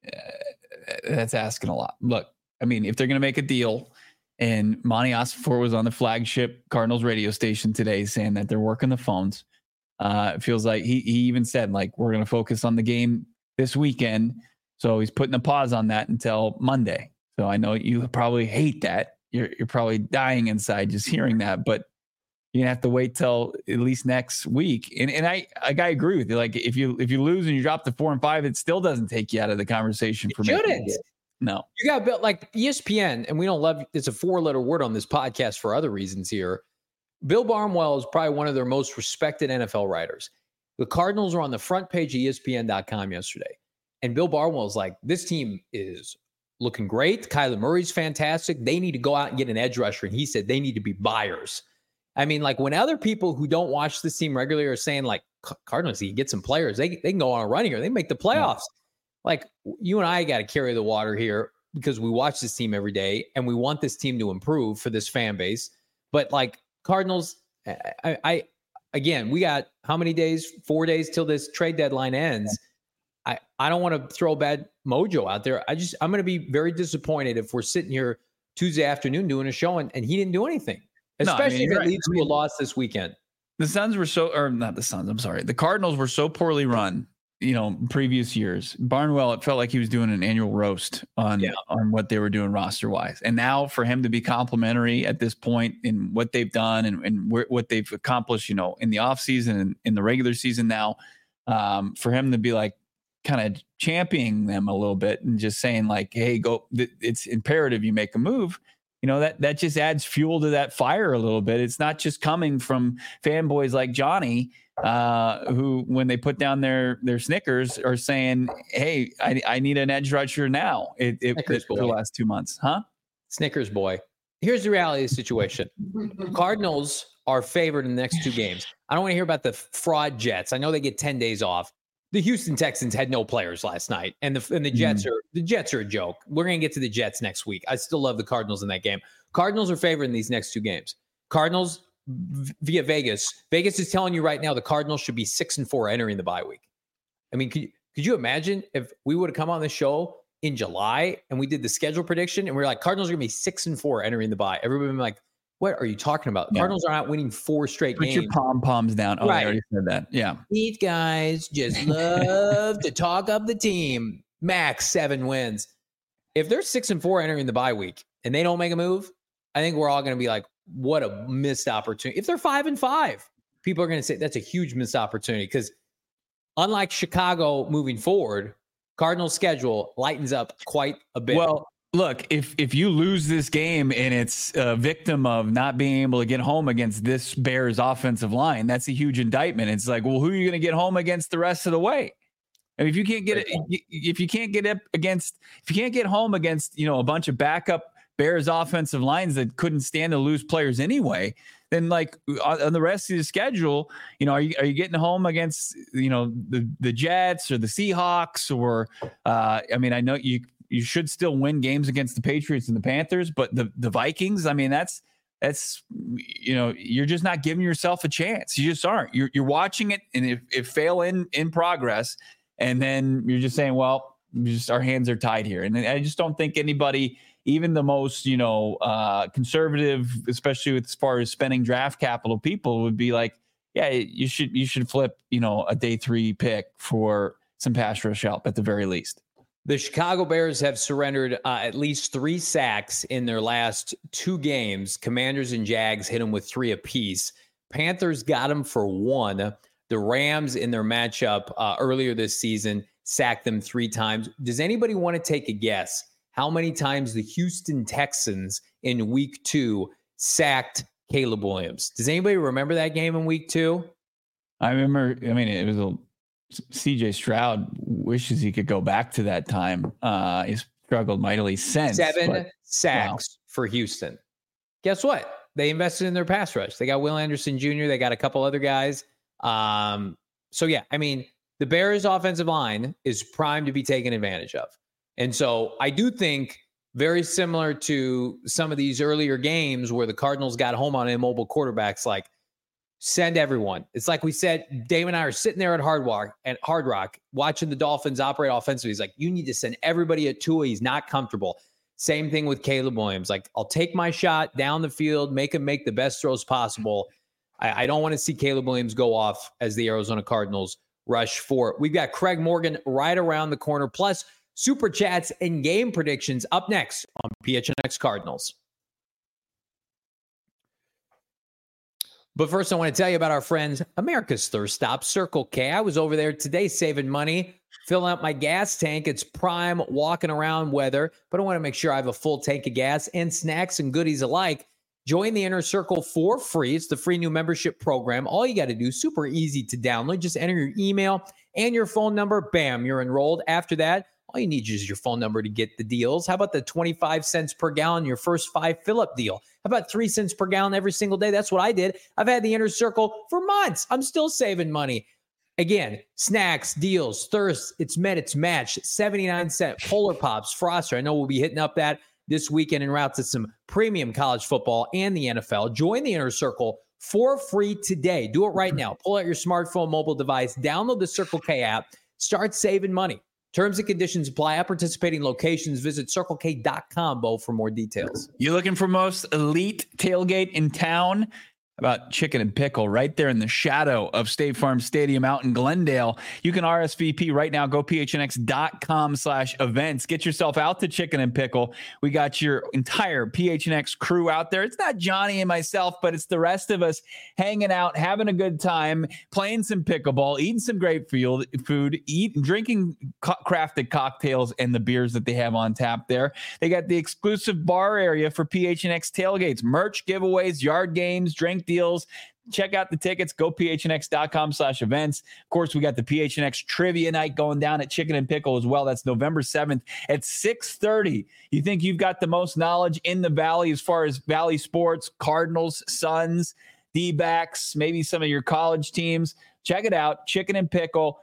that's asking a lot. Look, I mean, if they're going to make a deal, and Monty Ossenfort was on the flagship Cardinals radio station today saying that they're working the phones. It feels like he even said, like, we're going to focus on the game this weekend. So he's putting a pause on that until Monday. So I know you probably hate that. You're probably dying inside just hearing that, but you're gonna have to wait till at least next week. And I agree with you. Like, if you lose and you drop to 4-5, it still doesn't take you out of the conversation for me. No, you got built like ESPN, and we don't love it's a 4-letter word on this podcast for other reasons here. Bill Barnwell is probably one of their most respected NFL writers. The Cardinals were on the front page of ESPN.com yesterday, and Bill Barnwell's like, this team is looking great. Kyler Murray's fantastic. They need to go out and get an edge rusher. And he said they need to be buyers. I mean, like when other people who don't watch this team regularly are saying like Cardinals, you get some players, they can go on a run here. They make the playoffs. Like you and I got to carry the water here because we watch this team every day and we want this team to improve for this fan base. But like Cardinals, again, we got how many days? 4 days till this trade deadline ends. I don't want to throw bad mojo out there. I'm going to be very disappointed if we're sitting here Tuesday afternoon doing a show and he didn't do anything, especially if it leads to a loss this weekend. The Suns were not the Suns. I'm sorry. The Cardinals were so poorly run, previous years. Barnwell, it felt like he was doing an annual roast on what they were doing roster wise. And now for him to be complimentary at this point in what they've done and what they've accomplished, in the offseason and in the regular season now, for him to be like kind of championing them a little bit and just saying like, hey, go, it's imperative you make a move. That just adds fuel to that fire a little bit. It's not just coming from fanboys like Johnny, who, when they put down their Snickers, are saying, "Hey, I need an edge rusher now." For the last 2 months, huh? Snickers boy. Here's the reality of the situation: Cardinals are favored in the next 2 games. I don't want to hear about the fraud Jets. I know they get 10 days off. The Houston Texans had no players last night, and the Jets are a joke. We're going to get to the Jets next week. I still love the Cardinals in that game. Cardinals are favored in these next 2 games. Cardinals via Vegas. Vegas is telling you right now the Cardinals should be 6-4 entering the bye week. I mean, could you imagine if we would have come on the show in July and we did the schedule prediction and we were like, Cardinals are going to be 6-4 entering the bye. Everybody would be like, what are you talking about? The Cardinals are not winning 4 straight games. Put your pom-poms down. Oh, right. I already said that. Yeah. These guys just love to talk up the team. Max 7 wins. If they're 6-4 entering the bye week and they don't make a move, I think we're all going to be like, what a missed opportunity. If they're 5-5, people are going to say that's a huge missed opportunity because unlike Chicago moving forward, Cardinals' schedule lightens up quite a bit. Well, look, if you lose this game and it's a victim of not being able to get home against this Bears offensive line, that's a huge indictment. It's like, well, who are you going to get home against the rest of the way? I mean, if you can't get home against, a bunch of backup Bears offensive lines that couldn't stand to lose players anyway, then like on the rest of the schedule, are you getting home against, the Jets or the Seahawks or, I know you should still win games against the Patriots and the Panthers, but the Vikings, I mean, that's you're just not giving yourself a chance. You just aren't. You're watching it, and if fail in progress, and then you're just saying, well, our hands are tied here. And I just don't think anybody, even the most conservative, especially as far as spending draft capital, people would be like, yeah, you should flip a day 3 pick for some pass rush help at the very least. The Chicago Bears have surrendered at least 3 sacks in their last 2 games. Commanders and Jags hit them with 3 apiece. Panthers got them for 1. The Rams in their matchup earlier this season sacked them 3 times. Does anybody want to take a guess how many times the Houston Texans in week 2 sacked Caleb Williams? Does anybody remember that game in week 2? I remember. I mean, it was CJ Stroud wishes he could go back to that time. He's struggled mightily since. 7 sacks for Houston. Guess what? They invested in their pass rush. They got Will Anderson Jr. They got a couple other guys. So yeah, I mean, the Bears offensive line is primed to be taken advantage of. And so I do think very similar to some of these earlier games where the Cardinals got home on immobile quarterbacks, like send everyone. It's like we said, Dave and I are sitting there at Hard Rock watching the Dolphins operate offensively. He's like, you need to send everybody at Tua. He's not comfortable. Same thing with Caleb Williams. Like, I'll take my shot down the field, make him make the best throws possible. I don't want to see Caleb Williams go off as the Arizona Cardinals rush for it. We've got Craig Morgan right around the corner, plus Super Chats and game predictions up next on PHNX Cardinals. But first, I want to tell you about our friends, America's Thirst Stop, Circle K. I was over there today saving money, filling up my gas tank. It's prime walking around weather, but I want to make sure I have a full tank of gas and snacks and goodies alike. Join the Inner Circle for free. It's the free new membership program. All you got to do, super easy to download. Just enter your email and your phone number. Bam, you're enrolled. After that, All you need is your phone number to get the deals. How about the 25 cents per gallon, your first 5 fill-up deal? How about 3 cents per gallon every single day? That's what I did. I've had the Inner Circle for months. I'm still saving money. Again, snacks, deals, thirst, it's met, it's matched. 79-cent Polar Pops, Froster. I know we'll be hitting up that this weekend en route to some premium college football and the NFL. Join the Inner Circle for free today. Do it right now. Pull out your smartphone, mobile device, download the Circle K app, start saving money. Terms and conditions apply at participating locations. Visit CircleK.com, Bo, for more details. You looking for most elite tailgate in town? About Chicken and Pickle right there in the shadow of State Farm Stadium out in Glendale. You can RSVP right now. Go phnx.com/events. Get yourself out to Chicken and Pickle. We got your entire PHNX crew out there. It's not Johnny and myself, but it's the rest of us hanging out, having a good time, playing some pickleball, eating some great food, drinking crafted cocktails and the beers that they have on tap there. They got the exclusive bar area for PHNX tailgates, merch giveaways, yard games, drink deals. Check out the tickets. Go phnx.com/events. Of course, we got the PHNX trivia night going down at Chicken and Pickle as well. That's November 7th at 6:30. You think you've got the most knowledge in the Valley as far as Valley sports, Cardinals, Suns, D-backs, maybe some of your college teams. Check it out. Chicken and Pickle,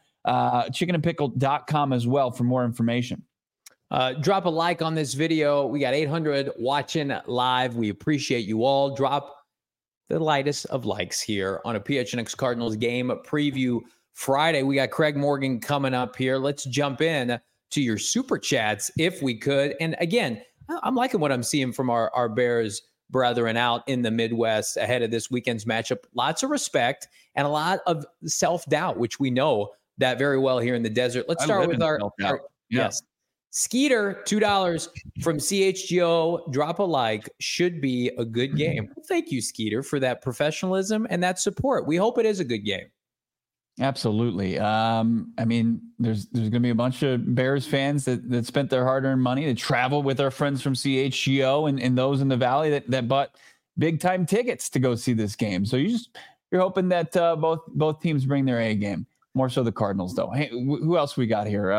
chickenandpickle.com as well for more information. Drop a like on this video. We got 800 watching live. We appreciate you all. Drop the lightest of likes here on a PHNX Cardinals game preview Friday. We got Craig Morgan coming up here. Let's jump in to your super chats if we could. And again, I'm liking what I'm seeing from our Bears brethren out in the Midwest ahead of this weekend's matchup. Lots of respect and a lot of self-doubt, which we know that very well here in the desert. Let's start with our yes. Skeeter, $2 from CHGO. Drop a like. Should be a good game. Thank you, Skeeter, for that professionalism and that support. We hope it is a good game. Absolutely. I mean, there's going to be a bunch of Bears fans that spent their hard-earned money to travel with our friends from CHGO and those in the Valley that bought big-time tickets to go see this game. So you're hoping that both teams bring their A game. More so the Cardinals, though. Hey, who else we got here?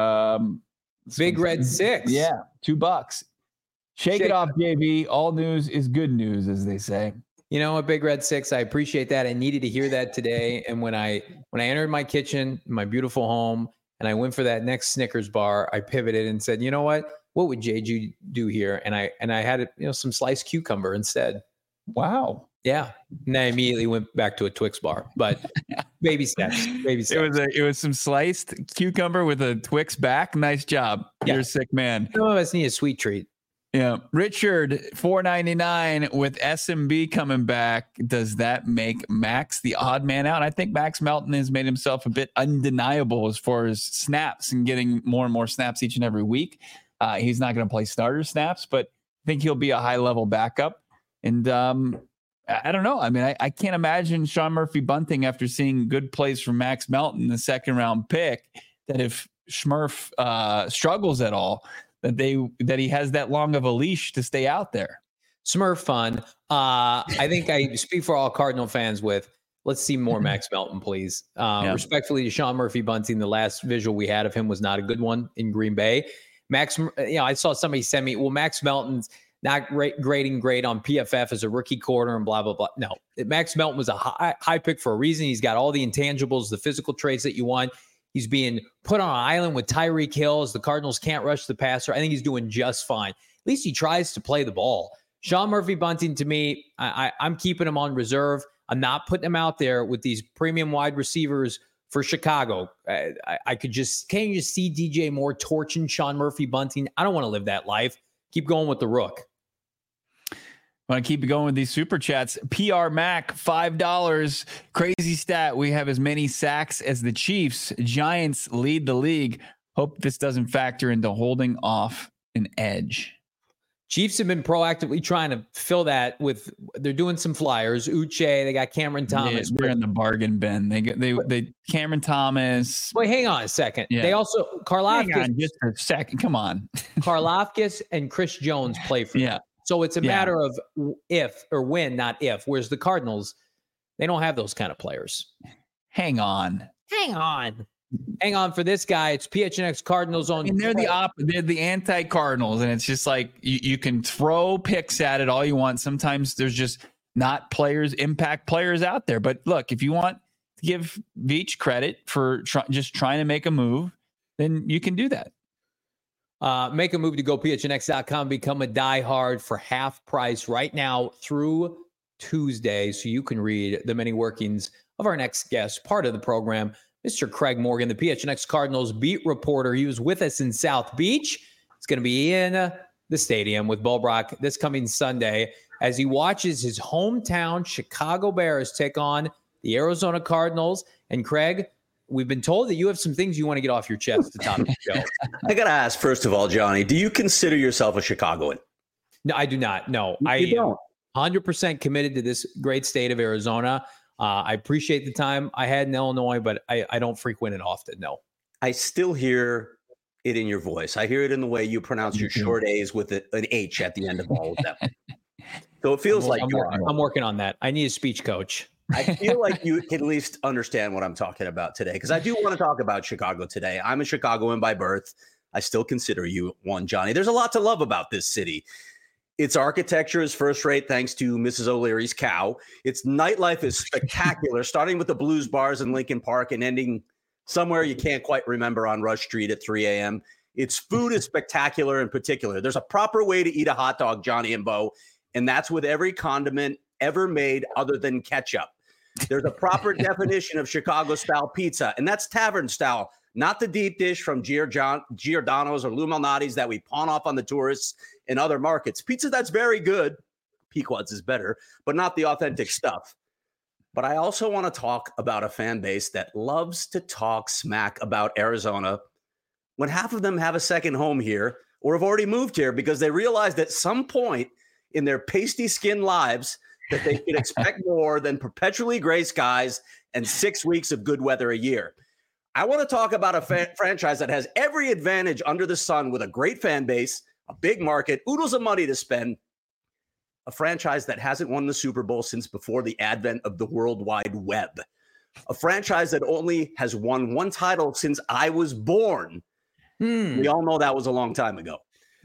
Big Red 6. Yeah, $2. Shake it off, JV. All news is good news, as they say. You know what, Big Red 6, I appreciate that. I needed to hear that today. And when I entered my kitchen, my beautiful home, and I went for that next Snickers bar, I pivoted and said, you know what would JG do here? And I had some sliced cucumber instead. Wow. Yeah. And I immediately went back to a Twix bar, but baby steps. It was some sliced cucumber with a Twix back. Nice job. Yeah. You're a sick man. Some of us need a sweet treat. Yeah. Richard, $4.99 with SMB coming back. Does that make Max the odd man out? I think Max Melton has made himself a bit undeniable as far as snaps and getting more and more snaps each and every week. He's not going to play starter snaps, but I think he'll be a high level backup. And, I don't know. I mean, I can't imagine Sean Murphy-Bunting, after seeing good plays from Max Melton, the second-round pick, that if Smurf struggles at all, that he has that long of a leash to stay out there. Smurf fun. I think I speak for all Cardinal fans with, let's see more Max Melton, please. Respectfully to Sean Murphy-Bunting, the last visual we had of him was not a good one in Green Bay. I saw somebody send me, well, Max Melton's not grading great on PFF as a rookie corner and blah, blah, blah. No, Max Melton was a high pick for a reason. He's got all the intangibles, the physical traits that you want. He's being put on an island with Tyreek Hill as the Cardinals can't rush the passer. I think he's doing just fine. At least he tries to play the ball. Sean Murphy-Bunting, to me, I'm keeping him on reserve. I'm not putting him out there with these premium wide receivers for Chicago. Can't you just see DJ Moore torching Sean Murphy-Bunting? I don't want to live that life. Keep going with the Rook. I want to keep going with these super chats. PR Mac, $5. Crazy stat. We have as many sacks as the Chiefs. Giants lead the league. Hope this doesn't factor into holding off an edge. Chiefs have been proactively trying to fill that with, they're doing some flyers. Uche, they got Cameron Thomas. Yeah, they're in the bargain bin. They Cameron Thomas. Wait, hang on a second. Yeah. They also, Karlaftis. Hang on just a second. Come on. Karlaftis and Chris Jones play for them. So it's a matter of if or when, not if. Whereas the Cardinals, they don't have those kind of players. Hang on. hang on for this guy. It's PHNX Cardinals on. And they're the anti-Cardinals, and it's just like you can throw picks at it all you want. Sometimes there's just not impact players out there. But look, if you want to give Veach credit for just trying to make a move, then you can do that. Make a move to GoPHNX.com. Become a diehard for half price right now through Tuesday, so you can read the many workings of our next guest, part of the program, Mr. Craig Morgan, the PHNX Cardinals beat reporter. He was with us in South Beach. He's going to be in the stadium with Bo Brock this coming Sunday as he watches his hometown Chicago Bears take on the Arizona Cardinals. And Craig, we've been told that you have some things you want to get off your chest to top the show. I got to ask, first of all, Johnny, do you consider yourself a Chicagoan? No, I do not. No, You don't. 100% committed to this great state of Arizona. I appreciate the time I had in Illinois, but I don't frequent it often. No. I still hear it in your voice. I hear it in the way you pronounce your short A's with an H at the end of all of them. So it feels I'm working on that. I need a speech coach. I feel like you can at least understand what I'm talking about today, because I do want to talk about Chicago today. I'm a Chicagoan by birth. I still consider you one, Johnny. There's a lot to love about this city. Its architecture is first rate thanks to Mrs. O'Leary's cow. Its nightlife is spectacular, starting with the blues bars in Lincoln Park and ending somewhere you can't quite remember on Rush Street at 3 a.m. Its food is spectacular in particular. There's a proper way to eat a hot dog, Johnny and Bo, and that's with every condiment ever made other than ketchup. There's a proper definition of Chicago-style pizza, and that's tavern-style, not the deep dish from Giordano's or Lou Malnati's that we pawn off on the tourists in other markets. Pizza that's very good, Pequod's is better, but not the authentic stuff. But I also want to talk about a fan base that loves to talk smack about Arizona when half of them have a second home here or have already moved here because they realized at some point in their pasty skin lives that they could expect more than perpetually gray skies and 6 weeks of good weather a year. I want to talk about a franchise that has every advantage under the sun with a great fan base, a big market, oodles of money to spend, a franchise that hasn't won the Super Bowl since before the advent of the World Wide Web, a franchise that only has won one title since I was born. We all know that was a long time ago.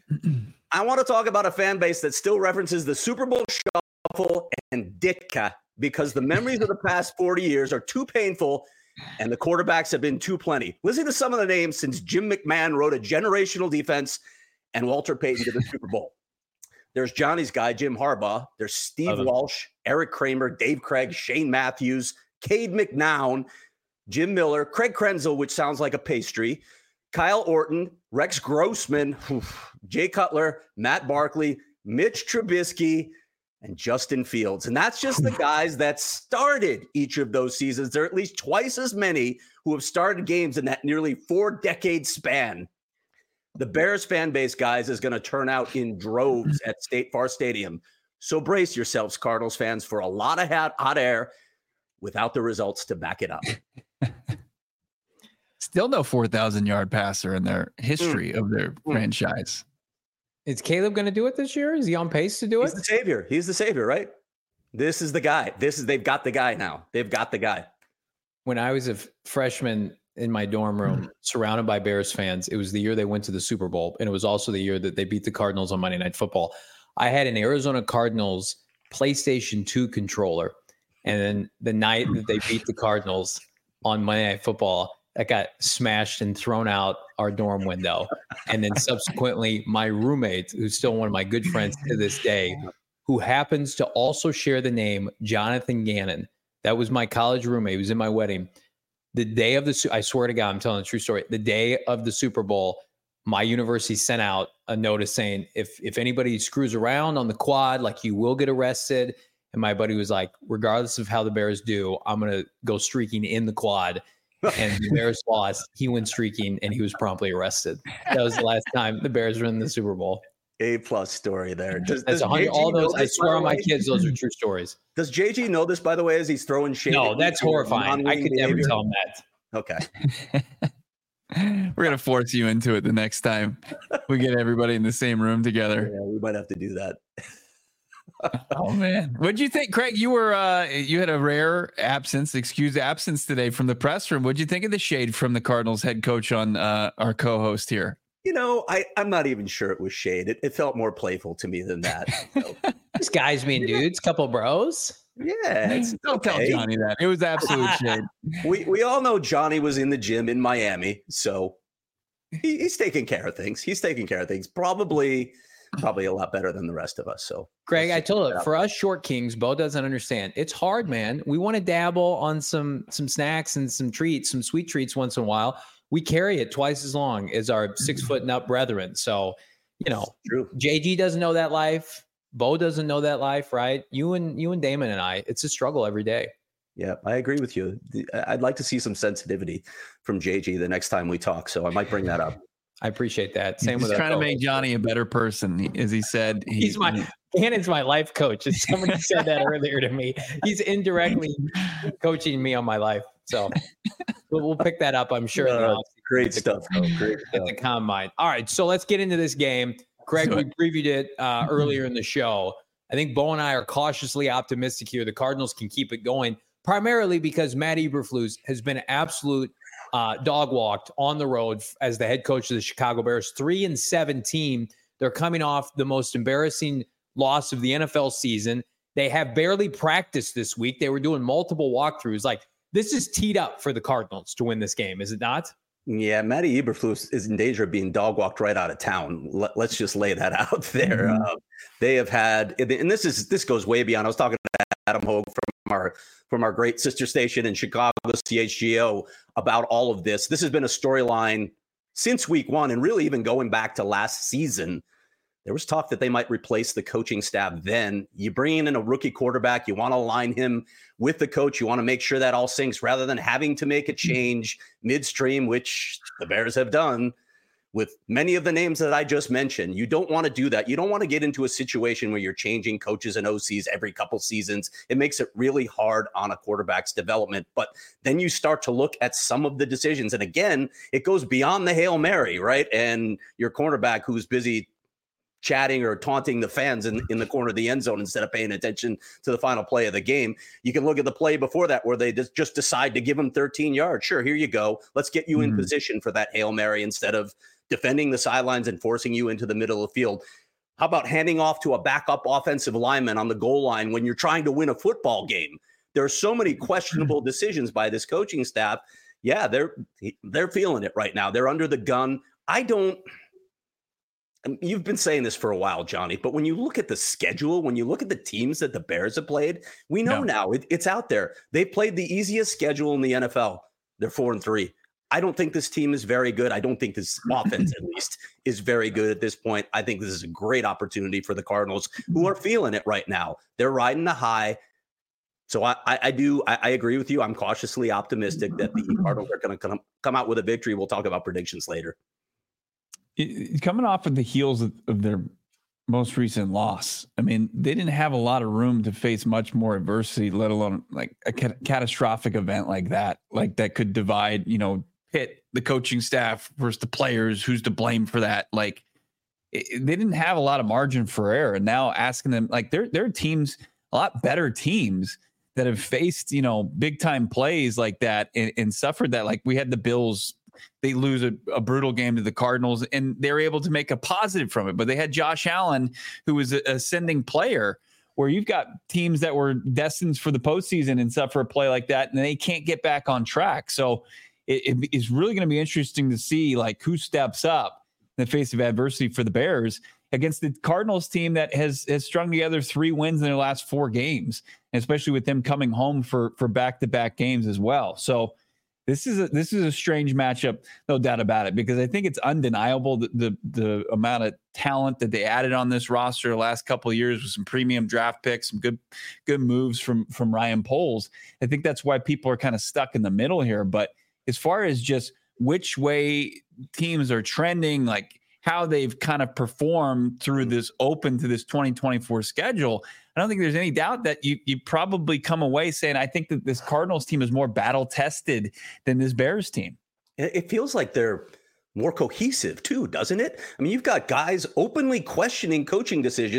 I want to talk about a fan base that still references the Super Bowl Shuffle and Ditka because the memories of the past 40 years are too painful and the quarterbacks have been too plenty. Listen to some of the names since Jim McMahon wrote a generational defense and Walter Payton to the Super Bowl. There's Johnny's guy, Jim Harbaugh. There's Steve Walsh, Eric Kramer, Dave Craig, Shane Matthews, Cade McNown, Jim Miller, Craig Krenzel, which sounds like a pastry, Kyle Orton, Rex Grossman, Jay Cutler, Matt Barkley, Mitch Trubisky, and Justin Fields. And that's just the guys that started each of those seasons. There are at least twice as many who have started games in that nearly 4-decade span. The Bears fan base, guys, is going to turn out in droves at State Farm Stadium. So brace yourselves, Cardinals fans, for a lot of hot air without the results to back it up. Still no 4,000-yard passer in their history of their franchise. Is Caleb going to do it this year? Is he on pace to do it? He's the savior. He's the savior, right? This is the guy. They've got the guy now. They've got the guy. When I was a freshman in my dorm room, surrounded by Bears fans, it was the year they went to the Super Bowl, and it was also the year that they beat the Cardinals on Monday Night Football. I had an Arizona Cardinals PlayStation 2 controller, and then the night that they beat the Cardinals on Monday Night Football, that got smashed and thrown out our dorm window. And then subsequently, my roommate, who's still one of my good friends to this day, who happens to also share the name Jonathan Gannon. That was my college roommate. He was in my wedding. The day of I swear to God, I'm telling a true story. The day of the Super Bowl, my university sent out a notice saying, if anybody screws around on the quad, like you will get arrested. And my buddy was like, regardless of how the Bears do, I'm going to go streaking in the quad. And the Bears lost. He went streaking and he was promptly arrested. That was the last time the Bears were in the Super Bowl. A-plus story there. That's 100. All those, I swear on my kids, those are true stories. Does JG know this, by the way, as he's throwing shade? No, that's horrifying. I could never tell him that. Okay. We're going to force you into it the next time we get everybody in the same room together. Yeah, we might have to do that. Oh man, what'd you think, Craig? You were you had a rare excused absence today from the press room. What'd you think of the shade from the Cardinals head coach on our co-host here? I'm not even sure it was shade. It felt more playful to me than that. These guys being dudes, couple bros. Yeah, Don't tell Johnny that. It was absolute shade. We all know Johnny was in the gym in Miami, so he's taking care of things. Probably a lot better than the rest of us. So, Greg, I told you, for us short kings, Bo doesn't understand. It's hard, man. We want to dabble on some snacks and some treats, some sweet treats once in a while. We carry it twice as long as our 6 foot and up brethren. So, true. JG doesn't know that life. Bo doesn't know that life, right? You and Damon and I, it's a struggle every day. Yeah, I agree with you. I'd like to see some sensitivity from JG the next time we talk. So I might bring that up. I appreciate that. Same He's with trying to make Johnny a better person, as he said. Cannon's my life coach. And somebody said that earlier to me. He's indirectly coaching me on my life. So we'll pick that up, I'm sure. Great stuff. Great at the combine. All right, so let's get into this game. Greg, we previewed it earlier in the show. I think Bo and I are cautiously optimistic here. The Cardinals can keep it going, primarily because Matt Eberflus has been absolute dog walked on the road as the head coach of the Chicago Bears. 3-17. They're coming off the most embarrassing loss of the NFL season. They have barely practiced this week. They were doing multiple walkthroughs. Like, this is teed up for the Cardinals to win this game, is it not? Yeah, Matty Eberflus is in danger of being dog walked right out of town. Let's just lay that out there. Mm-hmm. They have had, and this goes way beyond. I was talking to Adam Hogue from our great sister station in Chicago, CHGO, about all of this. This has been a storyline since week one, and really even going back to last season. There was talk that they might replace the coaching staff then. You bring in a rookie quarterback. You want to align him with the coach. You want to make sure that all syncs rather than having to make a change midstream, which the Bears have done with many of the names that I just mentioned. You don't want to do that. You don't want to get into a situation where you're changing coaches and OCs every couple seasons. It makes it really hard on a quarterback's development. But then you start to look at some of the decisions. And again, it goes beyond the Hail Mary, right? And your cornerback who's busy chatting or taunting the fans in the corner of the end zone instead of paying attention to the final play of the game. You can look at the play before that where they just decide to give him 13 yards. Sure, here you go. Let's get you in position for that Hail Mary instead of defending the sidelines and forcing you into the middle of the field. How about handing off to a backup offensive lineman on the goal line when you're trying to win a football game? There are so many questionable decisions by this coaching staff. Yeah, they're feeling it right now. They're under the gun. You've been saying this for a while, Johnny, but when you look at the schedule, when you look at the teams that the Bears have played, we know now it's out there. They played the easiest schedule in the NFL. They're 4-3. I don't think this team is very good. I don't think this offense, at least, is very good at this point. I think this is a great opportunity for the Cardinals, who are feeling it right now. They're riding the high. So I agree with you. I'm cautiously optimistic that the Cardinals are going to come out with a victory. We'll talk about predictions later. Coming off of the heels of their most recent loss, I mean, they didn't have a lot of room to face much more adversity, let alone like a catastrophic event like that could divide, pit the coaching staff versus the players. Who's to blame for that? Like, they didn't have a lot of margin for error. And now asking them, like, there are teams, a lot better teams that have faced, big time plays like that and suffered that. Like, we had the Bills. They lose a brutal game to the Cardinals, and they're able to make a positive from it. But they had Josh Allen, who was an ascending player, where you've got teams that were destined for the postseason and suffer a play like that, and they can't get back on track. So it is really going to be interesting to see like who steps up in the face of adversity for the Bears against the Cardinals team that has strung together 3 wins in their last 4 games, and especially with them coming home for back-to-back games as well. So This is a strange matchup, no doubt about it, because I think it's undeniable that the amount of talent that they added on this roster the last couple of years with some premium draft picks, some good moves from Ryan Poles. I think that's why people are kind of stuck in the middle here. But as far as just which way teams are trending, like how they've kind of performed through this open to this 2024 schedule, I don't think there's any doubt that you probably come away saying, I think that this Cardinals team is more battle tested than this Bears team. It feels like they're more cohesive too, doesn't it? I mean, you've got guys openly questioning coaching decisions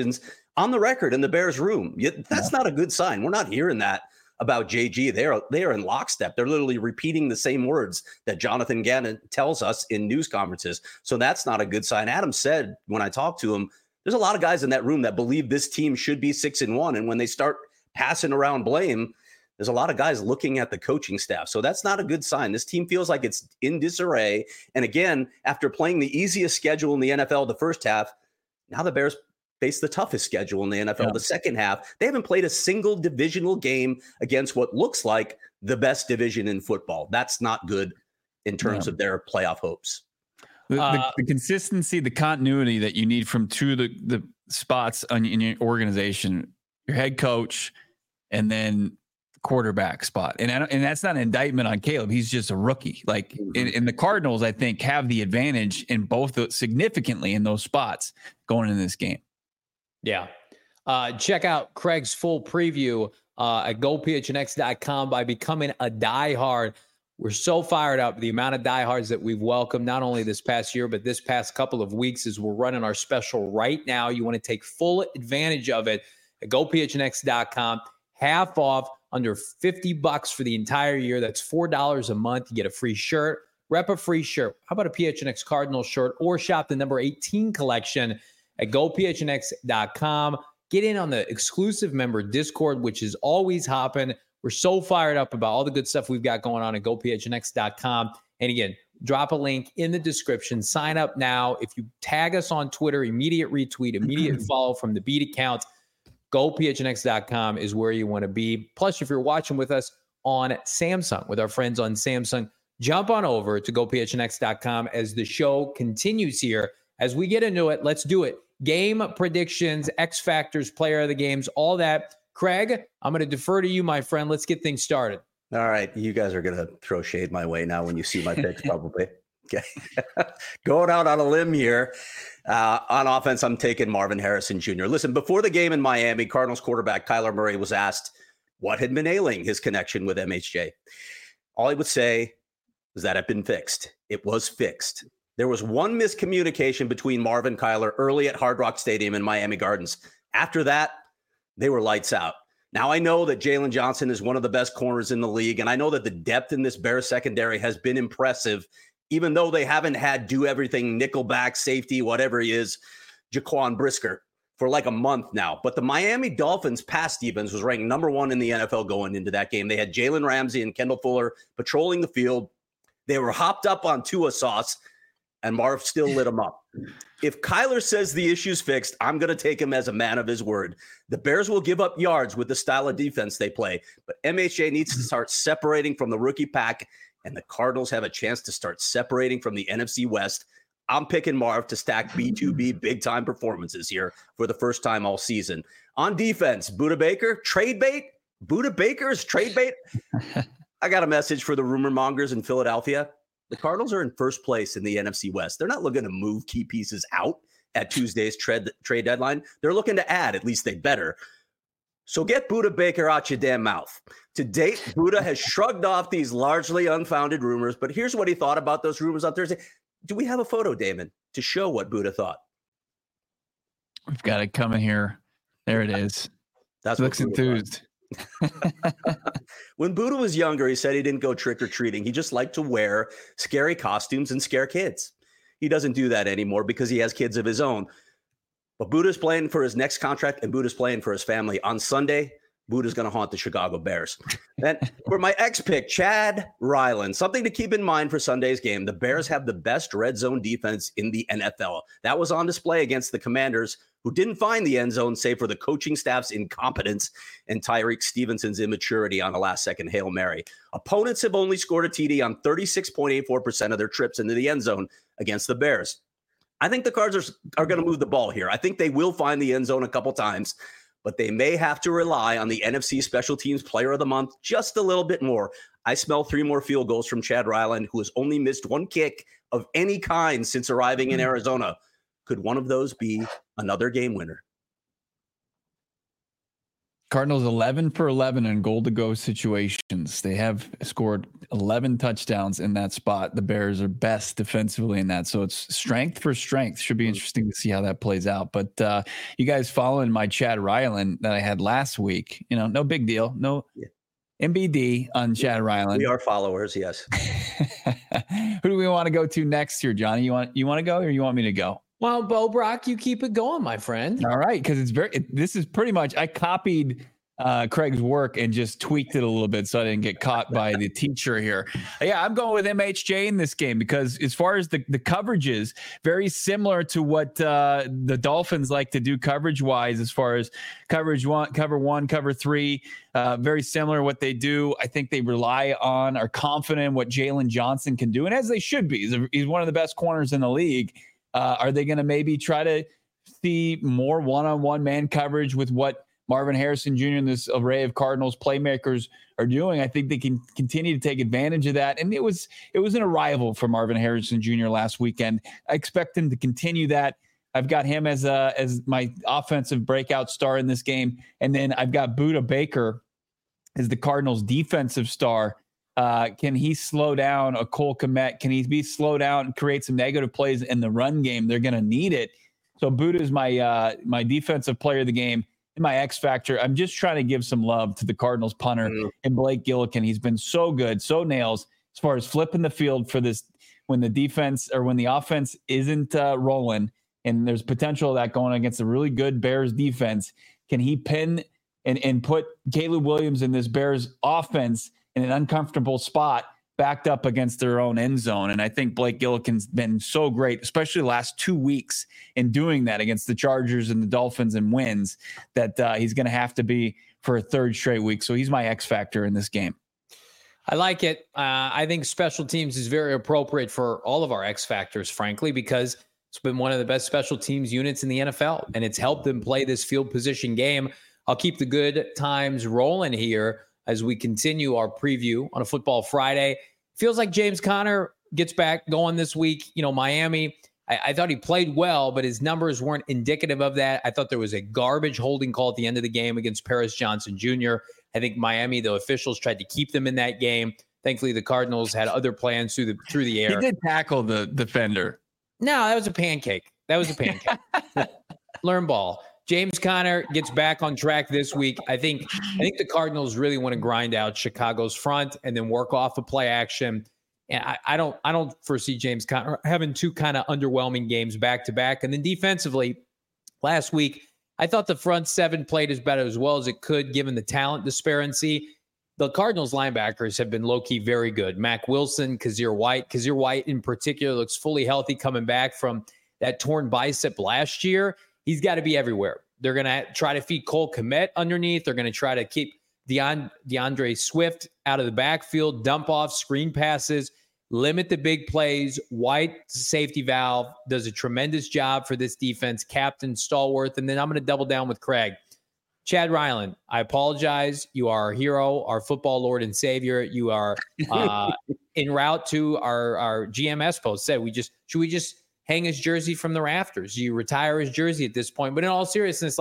on the record in the Bears room. That's not a good sign. We're not hearing that about JG. They are in lockstep. They're literally repeating the same words that Jonathan Gannon tells us in news conferences. So that's not a good sign. Adam said when I talked to him, there's a lot of guys in that room that believe this team should be 6-1. And when they start passing around blame, there's a lot of guys looking at the coaching staff. So that's not a good sign. This team feels like it's in disarray. And again, after playing the easiest schedule in the NFL the first half, now the Bears face the toughest schedule in the NFL the second half. They haven't played a single divisional game against what looks like the best division in football. That's not good in terms of their playoff hopes. The consistency, the continuity that you need from two of the spots in your organization, your head coach, and then quarterback spot. And that's not an indictment on Caleb. He's just a rookie. Like in the Cardinals, I think, have the advantage in both significantly in those spots going in this game. Yeah. Check out Craig's full preview at gophnx.com by becoming a diehard. We're so fired up. The amount of diehards that we've welcomed, not only this past year, but this past couple of weeks as we're running our special right now. You want to take full advantage of it at gophnx.com. Half off, under $50 for the entire year. That's $4 a month. You get a free shirt, rep a free shirt. How about a PHNX Cardinals shirt, or shop the number 18 collection at gophnx.com. Get in on the exclusive member Discord, which is always hopping. We're so fired up about all the good stuff we've got going on at gophnx.com. And again, drop a link in the description. Sign up now. If you tag us on Twitter, immediate retweet, immediate follow from the beat account. GoPHNX.com is where you want to be. Plus, if you're watching with us on Samsung, with our friends on Samsung, jump on over to GoPHNX.com as the show continues here. As we get into it, let's do it. Game predictions, X Factors, player of the games, all that. Craig, I'm going to defer to you, my friend. Let's get things started. All right. You guys are going to throw shade my way now when you see my picks, probably. Okay. Going out on a limb here. On offense, I'm taking Marvin Harrison Jr. Listen, before the game in Miami, Cardinals quarterback Kyler Murray was asked what had been ailing his connection with MHJ. All he would say was that it had been fixed. It was fixed. There was one miscommunication between Marvin and Kyler early at Hard Rock Stadium in Miami Gardens. After that, they were lights out. Now, I know that Jalen Johnson is one of the best corners in the league, and I know that the depth in this Bears secondary has been impressive, even though they haven't had do everything, nickelback, safety, whatever he is, Jaquan Brisker, for like a month now. But the Miami Dolphins pass defense was ranked number 1 in the NFL going into that game. They had Jalen Ramsey and Kendall Fuller patrolling the field. They were hopped up on Tua sauce, and Marv still lit them up. If Kyler says the issue's fixed, I'm going to take him as a man of his word. The Bears will give up yards with the style of defense they play, but MHJ needs to start separating from the rookie pack, and the Cardinals have a chance to start separating from the NFC West. I'm picking Marv to stack B2B big-time performances here for the first time all season. On defense, Budda Baker, trade bait? Budda Baker's trade bait? I got a message for the rumor mongers in Philadelphia. The Cardinals are in first place in the NFC West. They're not looking to move key pieces out at Tuesday's trade deadline. They're looking to add, at least they better. So get Budda Baker out your damn mouth. To date, Budda has shrugged off these largely unfounded rumors, but here's what he thought about those rumors on Thursday. Do we have a photo, Damon, to show what Budda thought? We've got it coming here. There it is. That's looks enthused. When Budda was younger, he said he didn't go trick-or-treating. He just liked to wear scary costumes and scare kids. He doesn't do that anymore because he has kids of his own. But Budda's playing for his next contract, and Budda's playing for his family. On Sunday, Budda's going to haunt the Chicago Bears. And for my ex-pick, Chad Ryland, something to keep in mind for Sunday's game. The Bears have the best red zone defense in the NFL. That was on display against the Commanders, who didn't find the end zone save for the coaching staff's incompetence and Tyreek Stevenson's immaturity on a last-second Hail Mary. Opponents have only scored a TD on 36.84% of their trips into the end zone against the Bears. I think the Cards are going to move the ball here. I think they will find the end zone a couple times, but they may have to rely on the NFC Special Teams Player of the Month just a little bit more. I smell 3 more field goals from Chad Ryland, who has only missed 1 kick of any kind since arriving in Arizona. Could one of those be another game winner? Cardinals 11 for 11 in goal to go situations. They have scored 11 touchdowns in that spot. The Bears are best defensively in that. So it's strength for strength. Should be interesting to see how that plays out. But you guys following my Chad Ryland that I had last week, no big deal. No MBD on Chad Ryland. We are followers, yes. Who do we want to go to next here, Johnny? You want to go or you want me to go? Well, Bo Brock, you keep it going, my friend. All right, because this is pretty much, I copied Craig's work and just tweaked it a little bit so I didn't get caught by the teacher here. Yeah, I'm going with MHJ in this game because as far as the coverages, very similar to what the Dolphins like to do coverage-wise as far as cover one, cover three, very similar what they do. I think they rely on, are confident in what Jalen Johnson can do, and as they should be. He's one of the best corners in the league. Are they going to maybe try to see more one-on-one man coverage with what Marvin Harrison Jr. and this array of Cardinals playmakers are doing? I think they can continue to take advantage of that. And it was an arrival for Marvin Harrison Jr. last weekend. I expect him to continue that. I've got him as my offensive breakout star in this game. And then I've got Budda Baker as the Cardinals defensive star. Can he slow down a Cole Kmet? Can he be slow down and create some negative plays in the run game? They're going to need it. So Budda is my defensive player of the game. In my X factor, I'm just trying to give some love to the Cardinals punter and Blake Gillikin. He's been so good, so nails as far as flipping the field for this when the defense or when the offense isn't rolling and there's potential of that going against a really good Bears defense. Can he pin and put Caleb Williams in this Bears offense in an uncomfortable spot backed up against their own end zone? And I think Blake Gillikin's been so great, especially the last 2 weeks in doing that against the Chargers and the Dolphins and wins, that he's going to have to be for a third straight week. So he's my X factor in this game. I like it. I think special teams is very appropriate for all of our X factors, frankly, because it's been one of the best special teams units in the NFL, and it's helped them play this field position game. I'll keep the good times rolling here as we continue our preview on a Football Friday. Feels like James Conner gets back going this week. Miami, I thought he played well, but his numbers weren't indicative of that. I thought there was a garbage holding call at the end of the game against Paris Johnson Jr. I think Miami, the officials tried to keep them in that game. Thankfully, the Cardinals had other plans through the air. He did tackle the defender. No, that was a pancake. Learn ball. James Conner gets back on track this week. I think the Cardinals really want to grind out Chicago's front and then work off a play action. And I don't foresee James Conner having two kind of underwhelming games back to back. And then defensively, last week, I thought the front seven played as well as it could, given the talent disparity. The Cardinals linebackers have been low-key very good. Mack Wilson, Kazir White in particular looks fully healthy coming back from that torn bicep last year. He's got to be everywhere. They're going to try to feed Cole Kmet underneath. They're going to try to keep DeAndre Swift out of the backfield, dump off screen passes, limit the big plays. White, safety valve, does a tremendous job for this defense, captain, stalwart. And then I'm going to double down with Craig. Chad Ryland, I apologize. You are our hero, our football lord and savior. You are en route to our GMS post. Said should we just hang his jersey from the rafters? You retire his jersey at this point. But in all seriousness,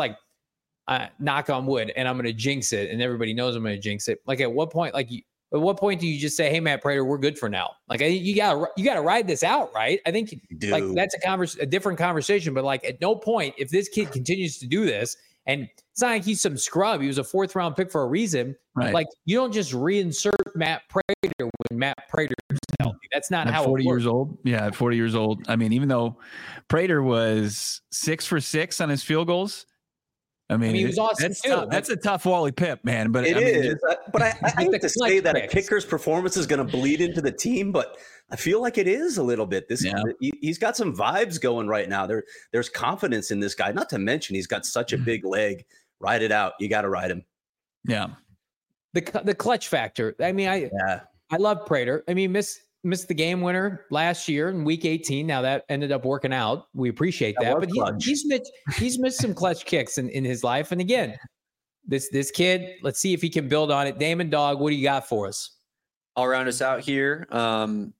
knock on wood, and I'm going to jinx it, and everybody knows I'm going to jinx it. At what point do you just say, "Hey, Matt Prater, we're good for now"? You gotta ride this out, right? I think that's a different conversation. But at no point, if this kid continues to do this, and it's not like he's some scrub. He was a 4th round pick for a reason. Right. You don't just reinsert Matt Prater when Matt Prater is healthy. That's not how 40 it works. years old. Yeah, at 40 years old. I mean, even though Prater was 6 for 6 on his field goals. I mean he was awesome too. That's a tough Wally Pipp, man. But it is. But I hate to say that a kicker's performance is going to bleed into the team, but I feel like it is a little bit. He's got some vibes going right now. There's confidence in this guy. Not to mention he's got such a big leg. Ride it out. You got to ride him. Yeah. The clutch factor. I mean, I love Prater. I mean, missed the game winner last year in week 18. Now that ended up working out. We appreciate that. But he's missed some clutch kicks in his life. And again, this kid, let's see if he can build on it. Damon Dog, what do you got for us? I'll round us out here.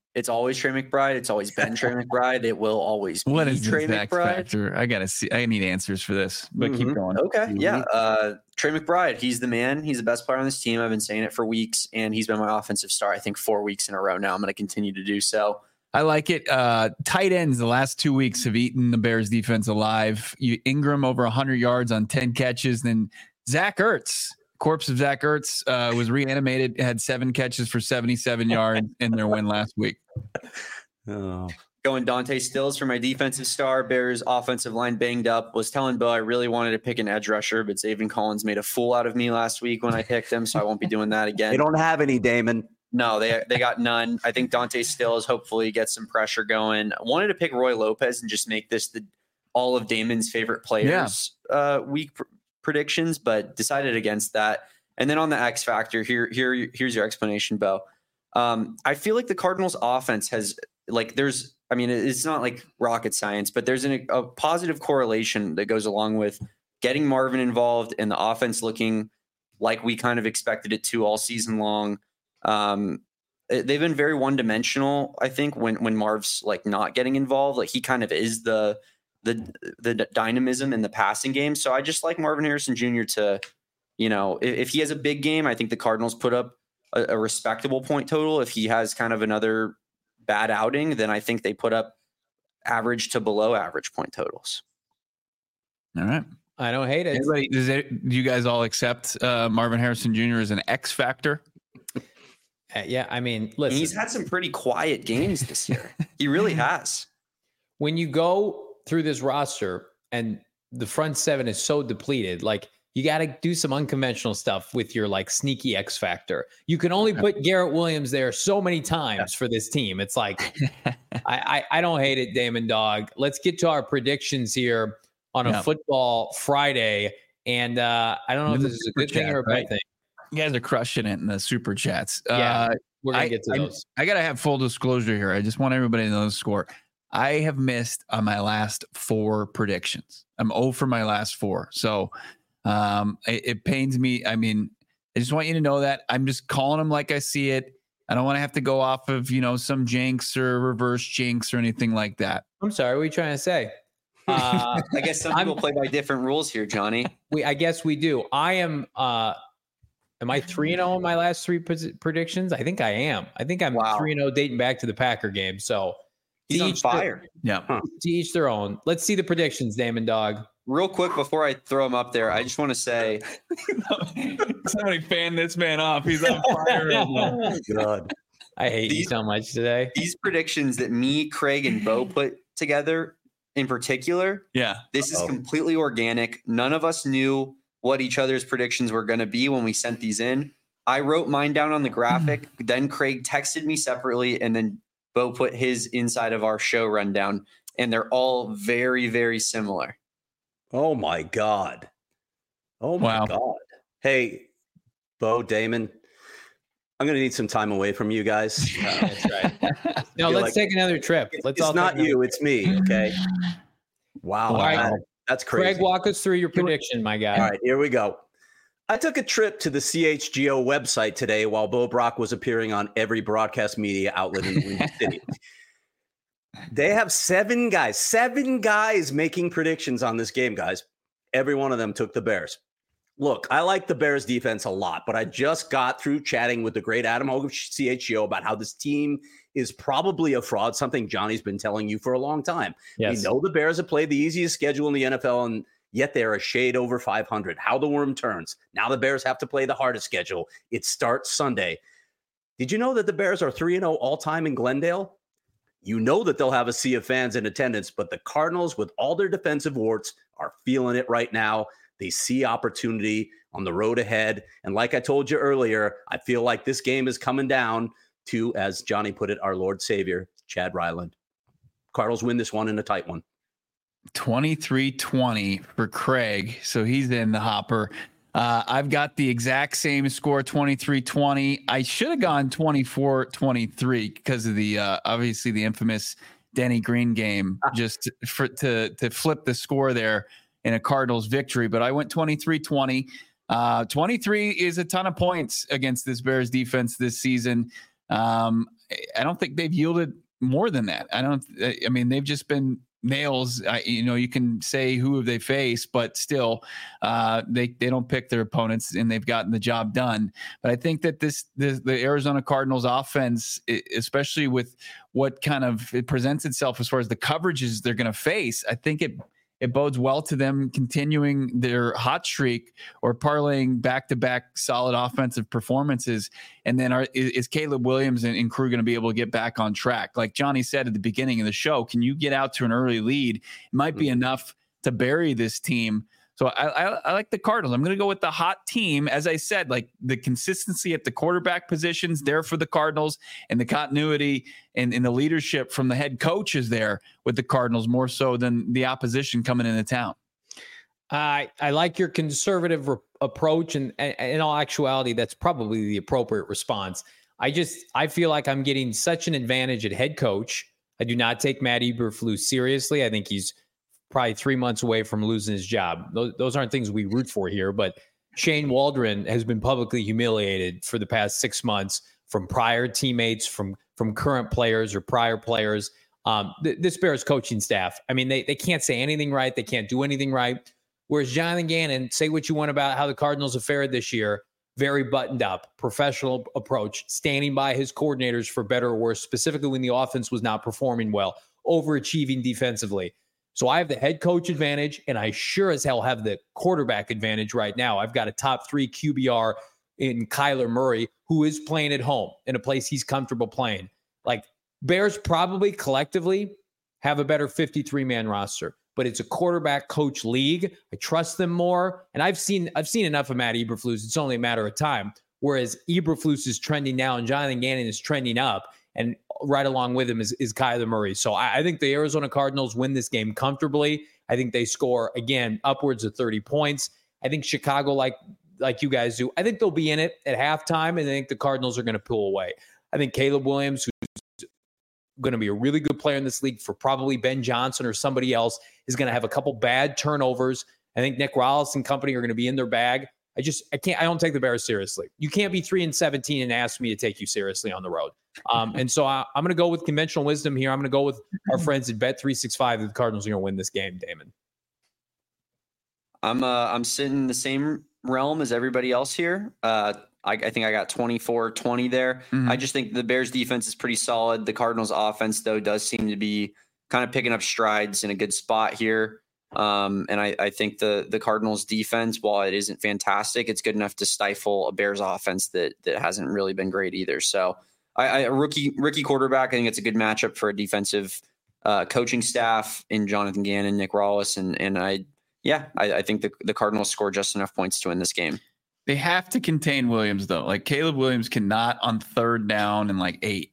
It's always Trey McBride. It's always been Trey McBride. It will always be What is Trey this X McBride. factor? I gotta see. I need answers for this, but keep going. Okay, yeah. Trey McBride, he's the man. He's the best player on this team. I've been saying it for weeks, and he's been my offensive star, I think, 4 weeks in a row now. I'm going to continue to do so. I like it. Tight ends the last 2 weeks have eaten the Bears defense alive. Ingram over 100 yards on 10 catches. Then Zach Ertz, corpse of Zach Ertz, was reanimated, had 7 catches for 77 yards in their win last week. Oh. Going Dante Stills for my defensive star. Bears offensive line banged up. Was telling Bo I really wanted to pick an edge rusher, but Zaven Collins made a fool out of me last week when I picked him, so I won't be doing that again. They don't have any, Damon. No, they got none. I think Dante Stills hopefully gets some pressure going. I wanted to pick Roy Lopez and just make this all of Damon's favorite players week predictions, but decided against that. And then on the X factor, here's your explanation, Bo. I feel like the Cardinals offense has it's not like rocket science, but there's a positive correlation that goes along with getting Marvin involved and the offense looking like we kind of expected it to all season long. They've been very one-dimensional, I think, when Marv's like not getting involved. Like he kind of is the dynamism in the passing game. So I just like Marvin Harrison Jr. to, if he has a big game, I think the Cardinals put up a respectable point total. If he has kind of another bad outing, then I think they put up average to below average point totals. All right. I don't hate it. Do you guys all accept Marvin Harrison Jr. as an X factor? Yeah, I mean, listen. He's had some pretty quiet games this year. He really has. When you go through this roster and the front seven is so depleted, like you got to do some unconventional stuff with your like sneaky X factor. You can only put Garrett Williams there so many times for this team. It's like, I don't hate it, Damon Dog. Let's get to our predictions here on a football Friday. And I don't know if this is a good thing or a bad thing. You guys are crushing it in the super chats. Yeah, we're going to get to those. I got to have full disclosure here. I just want everybody to know the score. I have missed on my last 4 predictions. I'm 0 for my last 4. So it pains me. I mean, I just want you to know that I'm just calling them like I see it. I don't want to have to go off of, some jinx or reverse jinx or anything like that. I'm sorry. What are you trying to say? I guess some people play by different rules here, Johnny. I guess we do. I am I 3-0 in my last 3 predictions? I think I am. I think I'm 3-0 dating back to the Packer game. So he's on fire. To each their own. Let's see the predictions, Damon Dog. Real quick before I throw him up there, I just want to say somebody fan this man off. He's on fire right now. Oh, God. I hate you so much today. These predictions that me, Craig, and Bo put together in particular, this is completely organic. None of us knew what each other's predictions were going to be when we sent these in. I wrote mine down on the graphic. Then Craig texted me separately, and then Bo put his inside of our show rundown, and they're all very, very similar. Oh my God. Oh my God. Hey, Bo, Damon, I'm going to need some time away from you guys. That's right. No, let's take another trip. It's not you, it's me. Okay. Wow. Right. That's crazy. Craig, walk us through your prediction, my guy. All right, here we go. I took a trip to the CHGO website today while Bo Brock was appearing on every broadcast media outlet in the city. They have 7 guys making predictions on this game, guys. Every one of them took the Bears. Look, I like the Bears defense a lot, but I just got through chatting with the great Adam Hogue of CHGO about how this team is probably a fraud, something Johnny's been telling you for a long time. Yes. We know the Bears have played the easiest schedule in the NFL, and yet they're a shade over 500. How the worm turns. Now the Bears have to play the hardest schedule. It starts Sunday. Did you know that the Bears are 3-0 all-time in Glendale? You know that they'll have a sea of fans in attendance, but the Cardinals, with all their defensive warts, are feeling it right now. They see opportunity on the road ahead. And like I told you earlier, I feel like this game is coming down to, as Johnny put it, our Lord Savior, Chad Ryland. Cardinals win this one in a tight one. 23-20 for Craig. So he's in the hopper. I've got the exact same score, 23-20. I should have gone 24-23 because of the obviously the infamous Denny Green game, just to flip the score there in a Cardinals victory. But I went 23-20. 23 is a ton of points against this Bears defense this season. I don't think they've yielded more than that. I mean, they've just been nails. You can say who have they faced, but still, they don't pick their opponents, and they've gotten the job done. But I think that the Arizona Cardinals offense, especially with what kind of it presents itself as far as the coverages they're going to face, I think it bodes well to them continuing their hot streak or parlaying back-to-back solid offensive performances. And then is Caleb Williams and crew going to be able to get back on track? Like Johnny said at the beginning of the show, can you get out to an early lead? It might be enough to bury this team. So I like the Cardinals. I'm going to go with the hot team. As I said, like the consistency at the quarterback positions there for the Cardinals, and the continuity and the leadership from the head coach is there with the Cardinals more so than the opposition coming into town. I like your conservative approach, and in all actuality, that's probably the appropriate response. I feel like I'm getting such an advantage at head coach. I do not take Matt Eberflus seriously. I think he's probably 3 months away from losing his job. Those aren't things we root for here, but Shane Waldron has been publicly humiliated for the past 6 months from prior teammates, from current players or prior players. This Bears coaching staff, I mean, they can't say anything right. They can't do anything right. Whereas Jonathan Gannon, say what you want about how the Cardinals have fared this year, very buttoned up, professional approach, standing by his coordinators for better or worse, specifically when the offense was not performing well, overachieving defensively. So I have the head coach advantage, and I sure as hell have the quarterback advantage right now. I've got a top 3 QBR in Kyler Murray, who is playing at home in a place he's comfortable playing. Like, Bears probably collectively have a better 53-man roster, but it's a quarterback coach league. I trust them more. And I've seen enough of Matt Eberflus. It's only a matter of time. Whereas Eberflus is trending down, Jonathan Gannon is trending up, and right along with him is Kyler Murray. So I think the Arizona Cardinals win this game comfortably. I think they score, again, upwards of 30 points. I think Chicago, like you guys do, I think they'll be in it at halftime, and I think the Cardinals are going to pull away. I think Caleb Williams, who's going to be a really good player in this league for probably Ben Johnson or somebody else, is going to have a couple bad turnovers. I think Nick Rallis and company are going to be in their bag. I don't take the Bears seriously. You can't be 3-17 and ask me to take you seriously on the road. And so I'm going to go with conventional wisdom here. I'm going to go with our friends at Bet365 that the Cardinals are going to win this game, Damon. I'm sitting in the same realm as everybody else here. I think I got 24-20 there. I just think the Bears defense is pretty solid. The Cardinals offense, though, does seem to be kind of picking up strides in a good spot here. And I think the Cardinals defense, while it isn't fantastic, it's good enough to stifle a Bears offense that hasn't really been great either. So a rookie quarterback, I think it's a good matchup for a defensive coaching staff in Jonathan Gannon, Nick Rallis. And I think the Cardinals score just enough points to win this game. They have to contain Williams, though. Like, Caleb Williams cannot on 3rd down and 8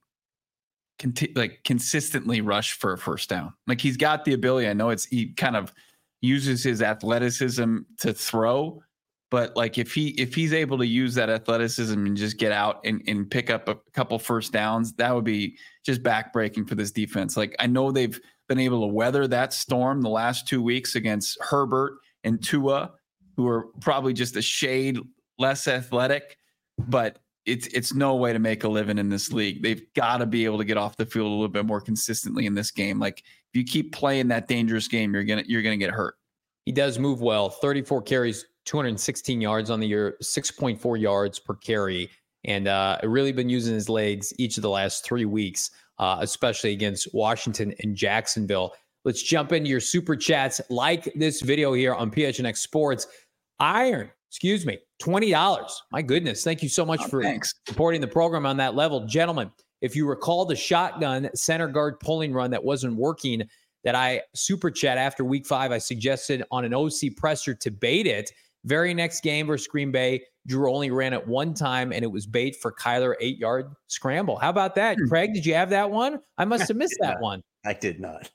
consistently rush for a first down. Like, he's got the ability. I know he kind of uses his athleticism to throw, but like if he's able to use that athleticism and just get out and pick up a couple first downs, that would be just backbreaking for this defense. Like, I know they've been able to weather that storm the last 2 weeks against Herbert and Tua, who are probably just a shade less athletic, but it's no way to make a living in this league. They've got to be able to get off the field a little bit more consistently in this game. Like, if you keep playing that dangerous game, you're gonna get hurt. He does move well. 34 carries, 216 yards on the year, 6.4 yards per carry, and really been using his legs each of the last 3 weeks, especially against Washington and Jacksonville. Let's jump into your super chats. Like this video here on PHNX Sports. Iron, $20. My goodness. Thank you so much for supporting the program on that level. Gentlemen, if you recall the shotgun center guard pulling run that wasn't working, that I super chat after week 5, I suggested on an OC presser to bait it. Very next game versus Green Bay, Drew only ran it one time, and it was bait for Kyler 8-yard scramble. How about that? Craig, did you have that one? I must have missed that one. I did not.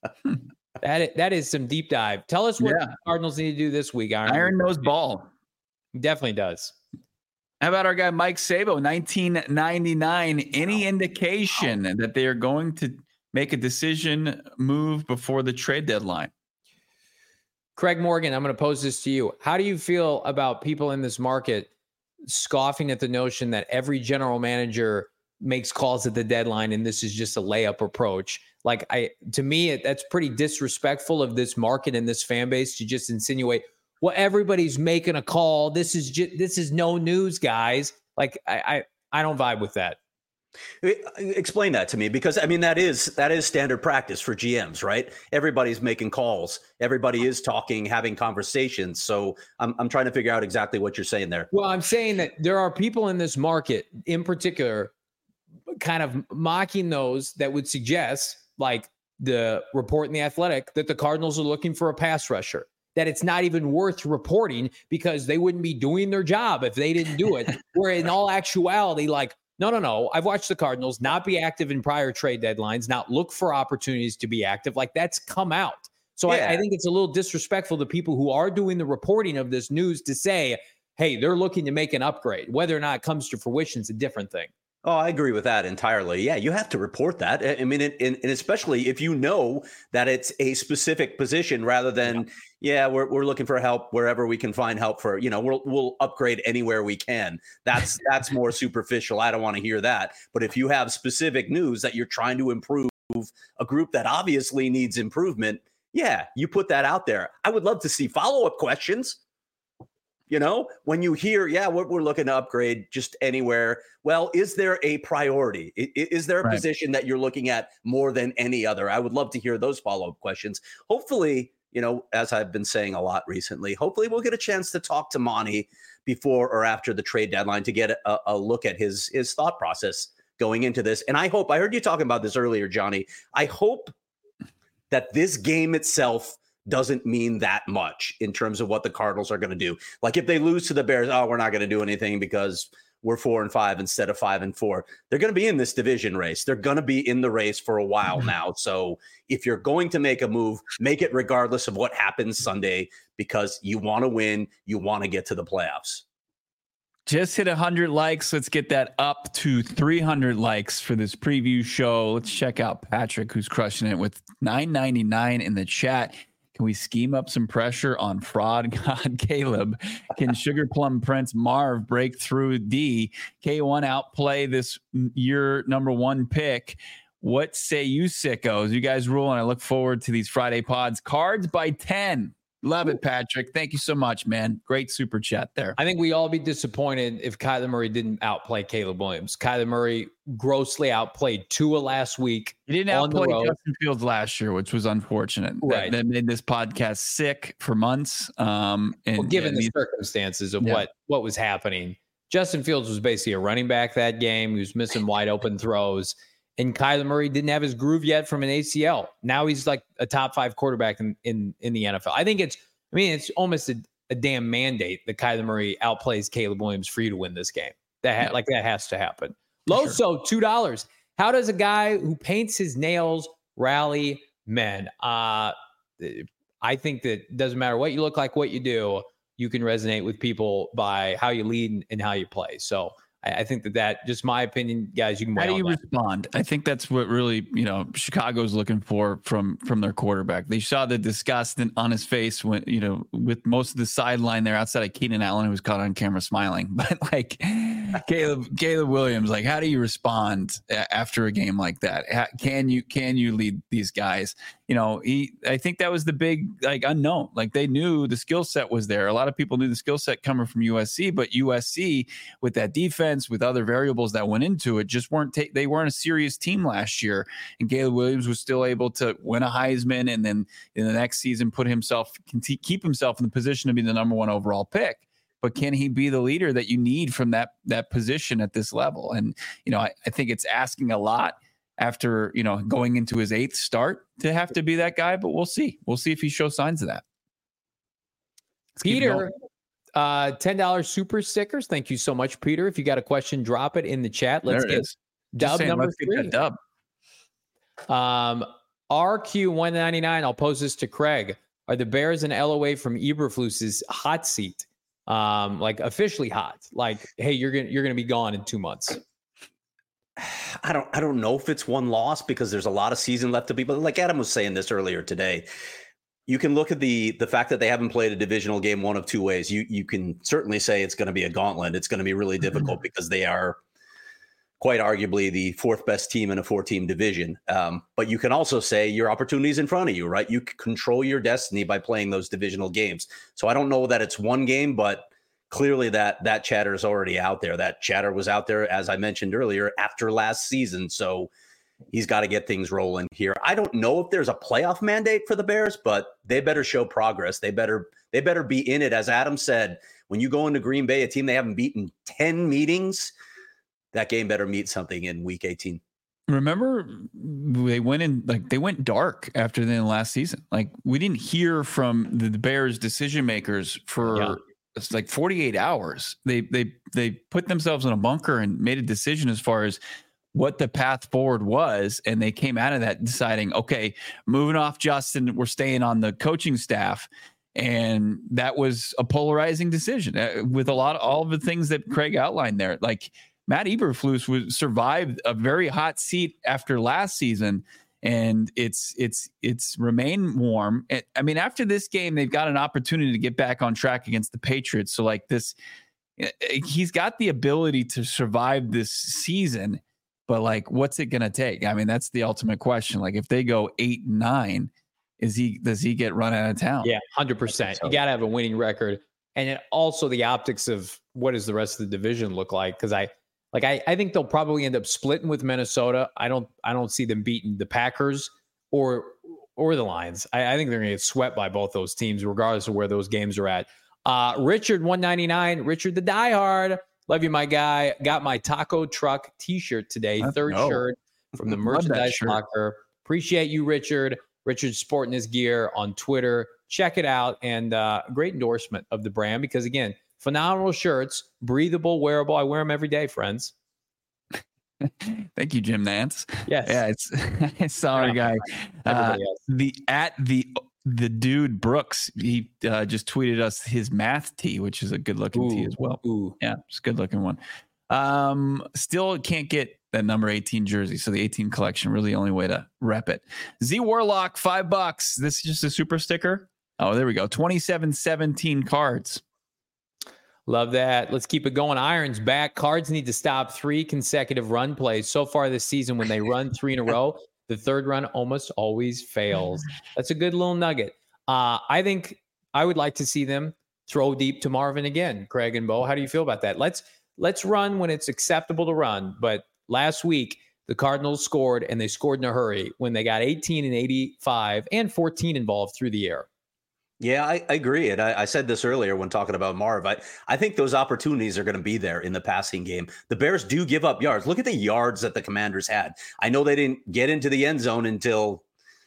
That is some deep dive. Tell us what the Cardinals need to do this week, Iron. Iron knows ball. He definitely does. How about our guy Mike Sabo, 1999? Any indication that they are going to make a decision move before the trade deadline? Craig Morgan, I'm going to pose this to you. How do you feel about people in this market scoffing at the notion that every general manager makes calls at the deadline and this is just a layup approach. Like to me, that's pretty disrespectful of this market and this fan base to just insinuate, well, everybody's making a call. This is no news, guys. Like I don't vibe with that. Explain that to me, because I mean that is standard practice for GMs, right? Everybody's making calls, everybody is talking, having conversations. So I'm trying to figure out exactly what you're saying there. Well, I'm saying that there are people in this market, in particular, kind of mocking those that would suggest, like the report in The Athletic, that the Cardinals are looking for a pass rusher. That it's not even worth reporting because they wouldn't be doing their job if they didn't do it. Where in all actuality, like, no. I've watched the Cardinals not be active in prior trade deadlines, not look for opportunities to be active. Like that's come out. So yeah. I think it's a little disrespectful to people who are doing the reporting of this news to say, hey, they're looking to make an upgrade. Whether or not it comes to fruition is a different thing. Oh, I agree with that entirely. Yeah, you have to report that. I mean, and especially if you know that it's a specific position rather than, we're looking for help wherever we can find help for, we'll upgrade anywhere we can. That's more superficial. I don't want to hear that. But if you have specific news that you're trying to improve a group that obviously needs improvement, you put that out there. I would love to see follow-up questions. When you hear, we're looking to upgrade just anywhere. Well, is there a priority? Is there a position that you're looking at more than any other? I would love to hear those follow-up questions. Hopefully, as I've been saying a lot recently, hopefully we'll get a chance to talk to Monty before or after the trade deadline to get a look at his thought process going into this. And I heard you talking about this earlier, Johnny. I hope that this game itself doesn't mean that much in terms of what the Cardinals are going to do. Like if they lose to the Bears, we're not going to do anything because we're 4-5 instead of 5-4. They're going to be in this division race. They're going to be in the race for a while now. So if you're going to make a move, make it regardless of what happens Sunday, because you want to win. You want to get to the playoffs. Just hit 100 likes. Let's get that up to 300 likes for this preview show. Let's check out Patrick, who's crushing it with $9.99 in the chat. Can we scheme up some pressure on fraud god Caleb? Can Sugar Plum Prince Marv break through D? K1 outplay this year number 1 pick? What say you sickos? You guys rule, and I look forward to these Friday pods. Cards by 10. Love it, Patrick. Thank you so much, man. Great super chat there. I think we all be disappointed if Kyler Murray didn't outplay Caleb Williams. Kyler Murray grossly outplayed Tua last week. He didn't outplay Justin Fields last year, which was unfortunate. Right. That made this podcast sick for months. Given the circumstances of what was happening, Justin Fields was basically a running back that game. He was missing wide open throws. And Kyler Murray didn't have his groove yet from an ACL. Now he's like a top 5 quarterback in the NFL. I think it's almost a damn mandate that Kyler Murray outplays Caleb Williams for you to win this game. That has to happen. Loso, $2. How does a guy who paints his nails rally men? I think that it doesn't matter what you look like, what you do, you can resonate with people by how you lead and how you play. So I think that just my opinion, guys, you can. How do you respond? I think that's what really, Chicago's looking for from their quarterback. They saw the disgust on his face when, with most of the sideline there outside of Keenan Allen, who was caught on camera smiling. But like Caleb Williams, like, how do you respond after a game like that? Can you lead these guys? I think that was the big unknown. Like they knew the skill set was there. A lot of people knew the skill set coming from USC, but USC with that defense, with other variables that went into it, just they weren't a serious team last year. And Caleb Williams was still able to win a Heisman, and then in the next season keep himself in the position to be the number 1 overall pick. But can he be the leader that you need from that position at this level? And I think it's asking a lot after going into his 8th start to have to be that guy. But we'll see. We'll see if he shows signs of that. Peter, $10 super stickers. Thank you so much, Peter. If you got a question, drop it in the chat. Let's get dub number 3. Dub. RQ199. I'll pose this to Craig. Are the Bears an LOA from Eberflus's hot seat? Officially hot. Like, hey, you're gonna be gone in 2 months. I don't know if it's one loss because there's a lot of season left to be. But like Adam was saying this earlier today, you can look at the fact that they haven't played a divisional game one of two ways. You can certainly say it's going to be a gauntlet. It's going to be really difficult because they are quite arguably the fourth best team in a 4-team division. But you can also say your opportunity's in front of you, right? You can control your destiny by playing those divisional games. So I don't know that it's one game, but clearly that chatter is already out there. That chatter was out there, as I mentioned earlier, after last season. So he's got to get things rolling here. I don't know if there's a playoff mandate for the Bears, but they better show progress. They better be in it. As Adam said, when you go into Green Bay, a team they haven't beaten 10 meetings, that game better meet something in week 18. Remember, they went dark after the last season. Like, we didn't hear from the Bears decision makers for it's like 48 hours. They put themselves in a bunker and made a decision as far as what the path forward was. And they came out of that deciding, okay, moving off Justin, we're staying on the coaching staff. And that was a polarizing decision with all of the things that Craig outlined there. Like, Matt Eberflus survived a very hot seat after last season, and it's remained warm. I mean, after this game, they've got an opportunity to get back on track against the Patriots. So like this, he's got the ability to survive this season, but like, what's it going to take? I mean, that's the ultimate question. Like, if they go 8-9, does he get run out of town? Yeah, 100%. You got to have a winning record, and then also the optics of what does the rest of the division look like? Because I think they'll probably end up splitting with Minnesota. I don't see them beating the Packers or the Lions. I think they're going to get swept by both those teams, regardless of where those games are at. Richard 199, Richard the diehard. Love you, my guy. Got my taco truck T-shirt today. Third shirt from the merchandise locker. Appreciate you, Richard. Richard's sporting his gear on Twitter. Check it out, and great endorsement of the brand because again, phenomenal shirts, breathable, wearable. I wear them every day, friends. Thank you, Jim Nance. Yes. Yeah, I saw our guy. The dude Brooks, he just tweeted us his math tee, which is a good looking tee as well. Ooh. Yeah, it's a good looking one. Still can't get that number 18 jersey. So the 18 collection, really the only way to rep it. Z Warlock, $5. This is just a super sticker. Oh, there we go. 27-17 cards. Love that. Let's keep it going. Iron's back. Cards need to stop 3 consecutive run plays. So far this season, when they run 3 in a row, the third run almost always fails. That's a good little nugget. I think I would like to see them throw deep to Marvin again. Craig and Bo, how do you feel about that? Let's run when it's acceptable to run. But last week, the Cardinals scored, and they scored in a hurry when they got 18 and 85 and 14 involved through the air. Yeah, I agree. And I said this earlier when talking about Marv. I think those opportunities are going to be there in the passing game. The Bears do give up yards. Look at the yards that the Commanders had. I know they didn't get into the end zone until,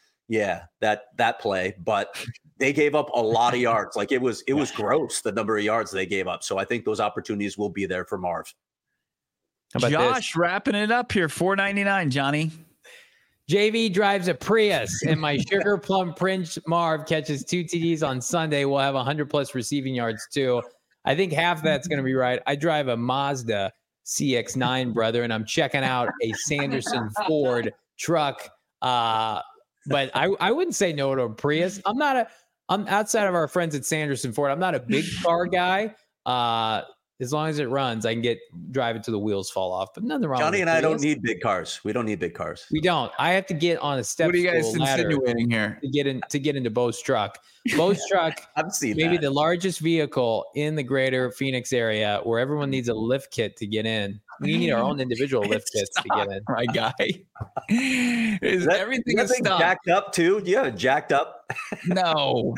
that play, but they gave up a lot of yards. Like it was gross, the number of yards they gave up. So I think those opportunities will be there for Marv. How about Josh, wrapping it up here, $4.99, Johnny. JV drives a Prius, and my Sugar Plum Prince Marv catches 2 TDs on Sunday. We'll have 100+ receiving yards, too. I think half that's going to be right. I drive a Mazda CX-9, brother, and I'm checking out a Sanderson Ford truck. But I wouldn't say no to a Prius. I'm outside of our friends at Sanderson Ford. I'm not a big car guy. As long as it runs, I can drive it till the wheels fall off. But nothing wrong. Johnny with and I don't need big cars. We don't need big cars. We don't. I have to get on a step. What are you guys insinuating here? To get into Bo's truck. Bo's truck. I've seen maybe that. The largest vehicle in the greater Phoenix area where everyone needs a lift kit to get in. We need our own individual lift kits to get in. My guy. Everything is jacked up too? Do you have it jacked up? No.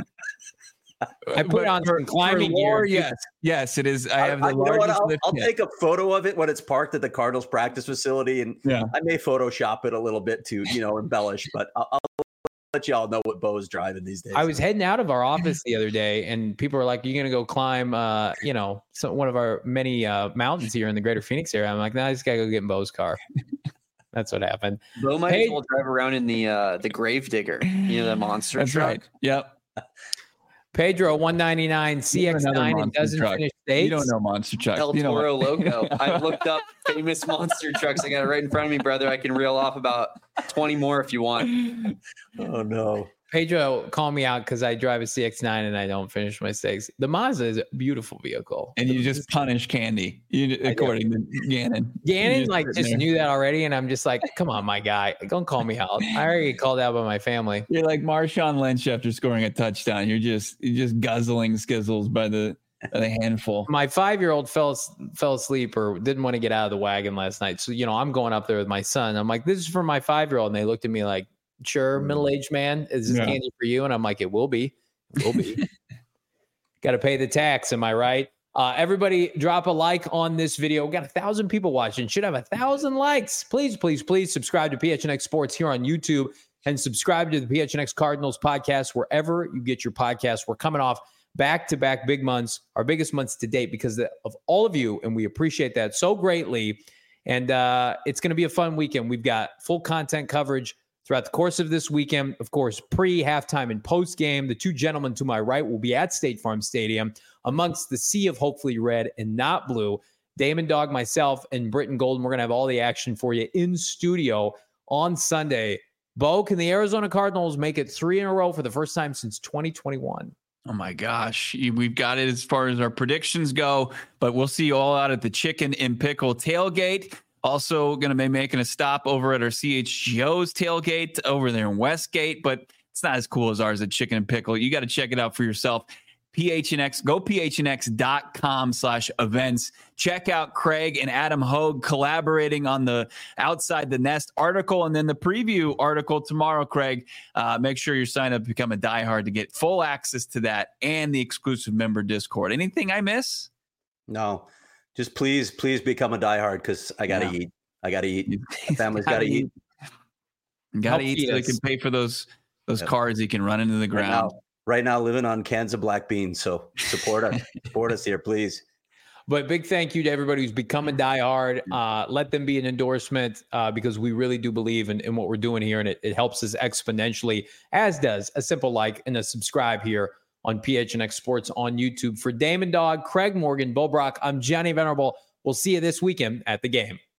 I put on some climbing gear. Yes, it is. I have the largest lift I'll kit. take a photo of it when it's parked at the Cardinals practice facility, and I may Photoshop it a little bit to embellish, but I'll let y'all know what Bo is driving these days. I was heading out of our office the other day, and people were like, "You're gonna go climb, one of our many mountains here in the greater Phoenix area." I'm like, "No, I just gotta go get in Bo's car." That's what happened. Bo might as well drive around in the Gravedigger, the monster That's truck. Right. Yep. Pedro 199 CX9 and doesn't finish states. You don't know monster truck. El Toro logo. I looked up famous monster trucks. I got it right in front of me, brother. I can reel off about 20 more if you want. Oh no. Pedro called me out because I drive a CX-9 and I don't finish my stakes. The Mazda is a beautiful vehicle. And you just punish Candy, according to Gannon. Gannon just knew that already, and I'm just like, come on, my guy, don't call me out. I already get called out by my family. You're like Marshawn Lynch after scoring a touchdown. You're just guzzling skizzles by the handful. My 5-year-old fell asleep or didn't want to get out of the wagon last night. So, I'm going up there with my son. I'm like, this is for my 5-year-old. And they looked at me like, sure, middle-aged man, is this candy for you? And I'm like, it will be. Got to pay the tax. Am I right? Everybody drop a like on this video. We got 1,000 people watching. Should have 1,000 likes. Please, please, please subscribe to PHNX Sports here on YouTube and subscribe to the PHNX Cardinals podcast wherever you get your podcasts. We're coming off back-to-back big months, our biggest months to date because of all of you, and we appreciate that so greatly. And it's going to be a fun weekend. We've got full content coverage throughout the course of this weekend. Of course, pre-halftime and post-game, the two gentlemen to my right will be at State Farm Stadium amongst the sea of hopefully red and not blue. Damon Dog, myself, and Britton Golden. We're going to have all the action for you in studio on Sunday. Bo, can the Arizona Cardinals make it 3 in a row for the first time since 2021? Oh my gosh. We've got it as far as our predictions go, but we'll see you all out at the Chicken and Pickle tailgate. Also going to be making a stop over at our CHGO's tailgate over there in Westgate, but it's not as cool as ours at Chicken and Pickle. You got to check it out for yourself. PHNX, go phnx.com/events. Check out Craig and Adam Hogue collaborating on the Outside the Nest article and then the preview article tomorrow, Craig. Make sure you're signed up to become a diehard to get full access to that and the exclusive member Discord. Anything I miss? No, just please become a diehard because I got to eat. I got to eat. My family's got to eat. Got to eat so they can pay for those cars he can run into the ground. Right now, living on cans of black beans. So support us. Support us here, please. But big thank you to everybody who's become a diehard. Let them be an endorsement because we really do believe in what we're doing here, and it helps us exponentially, as does a simple like and a subscribe here on PHNX Sports on YouTube. For Damon Dog, Craig Morgan, Bo Brock, I'm Johnny Venerable. We'll see you this weekend at the game.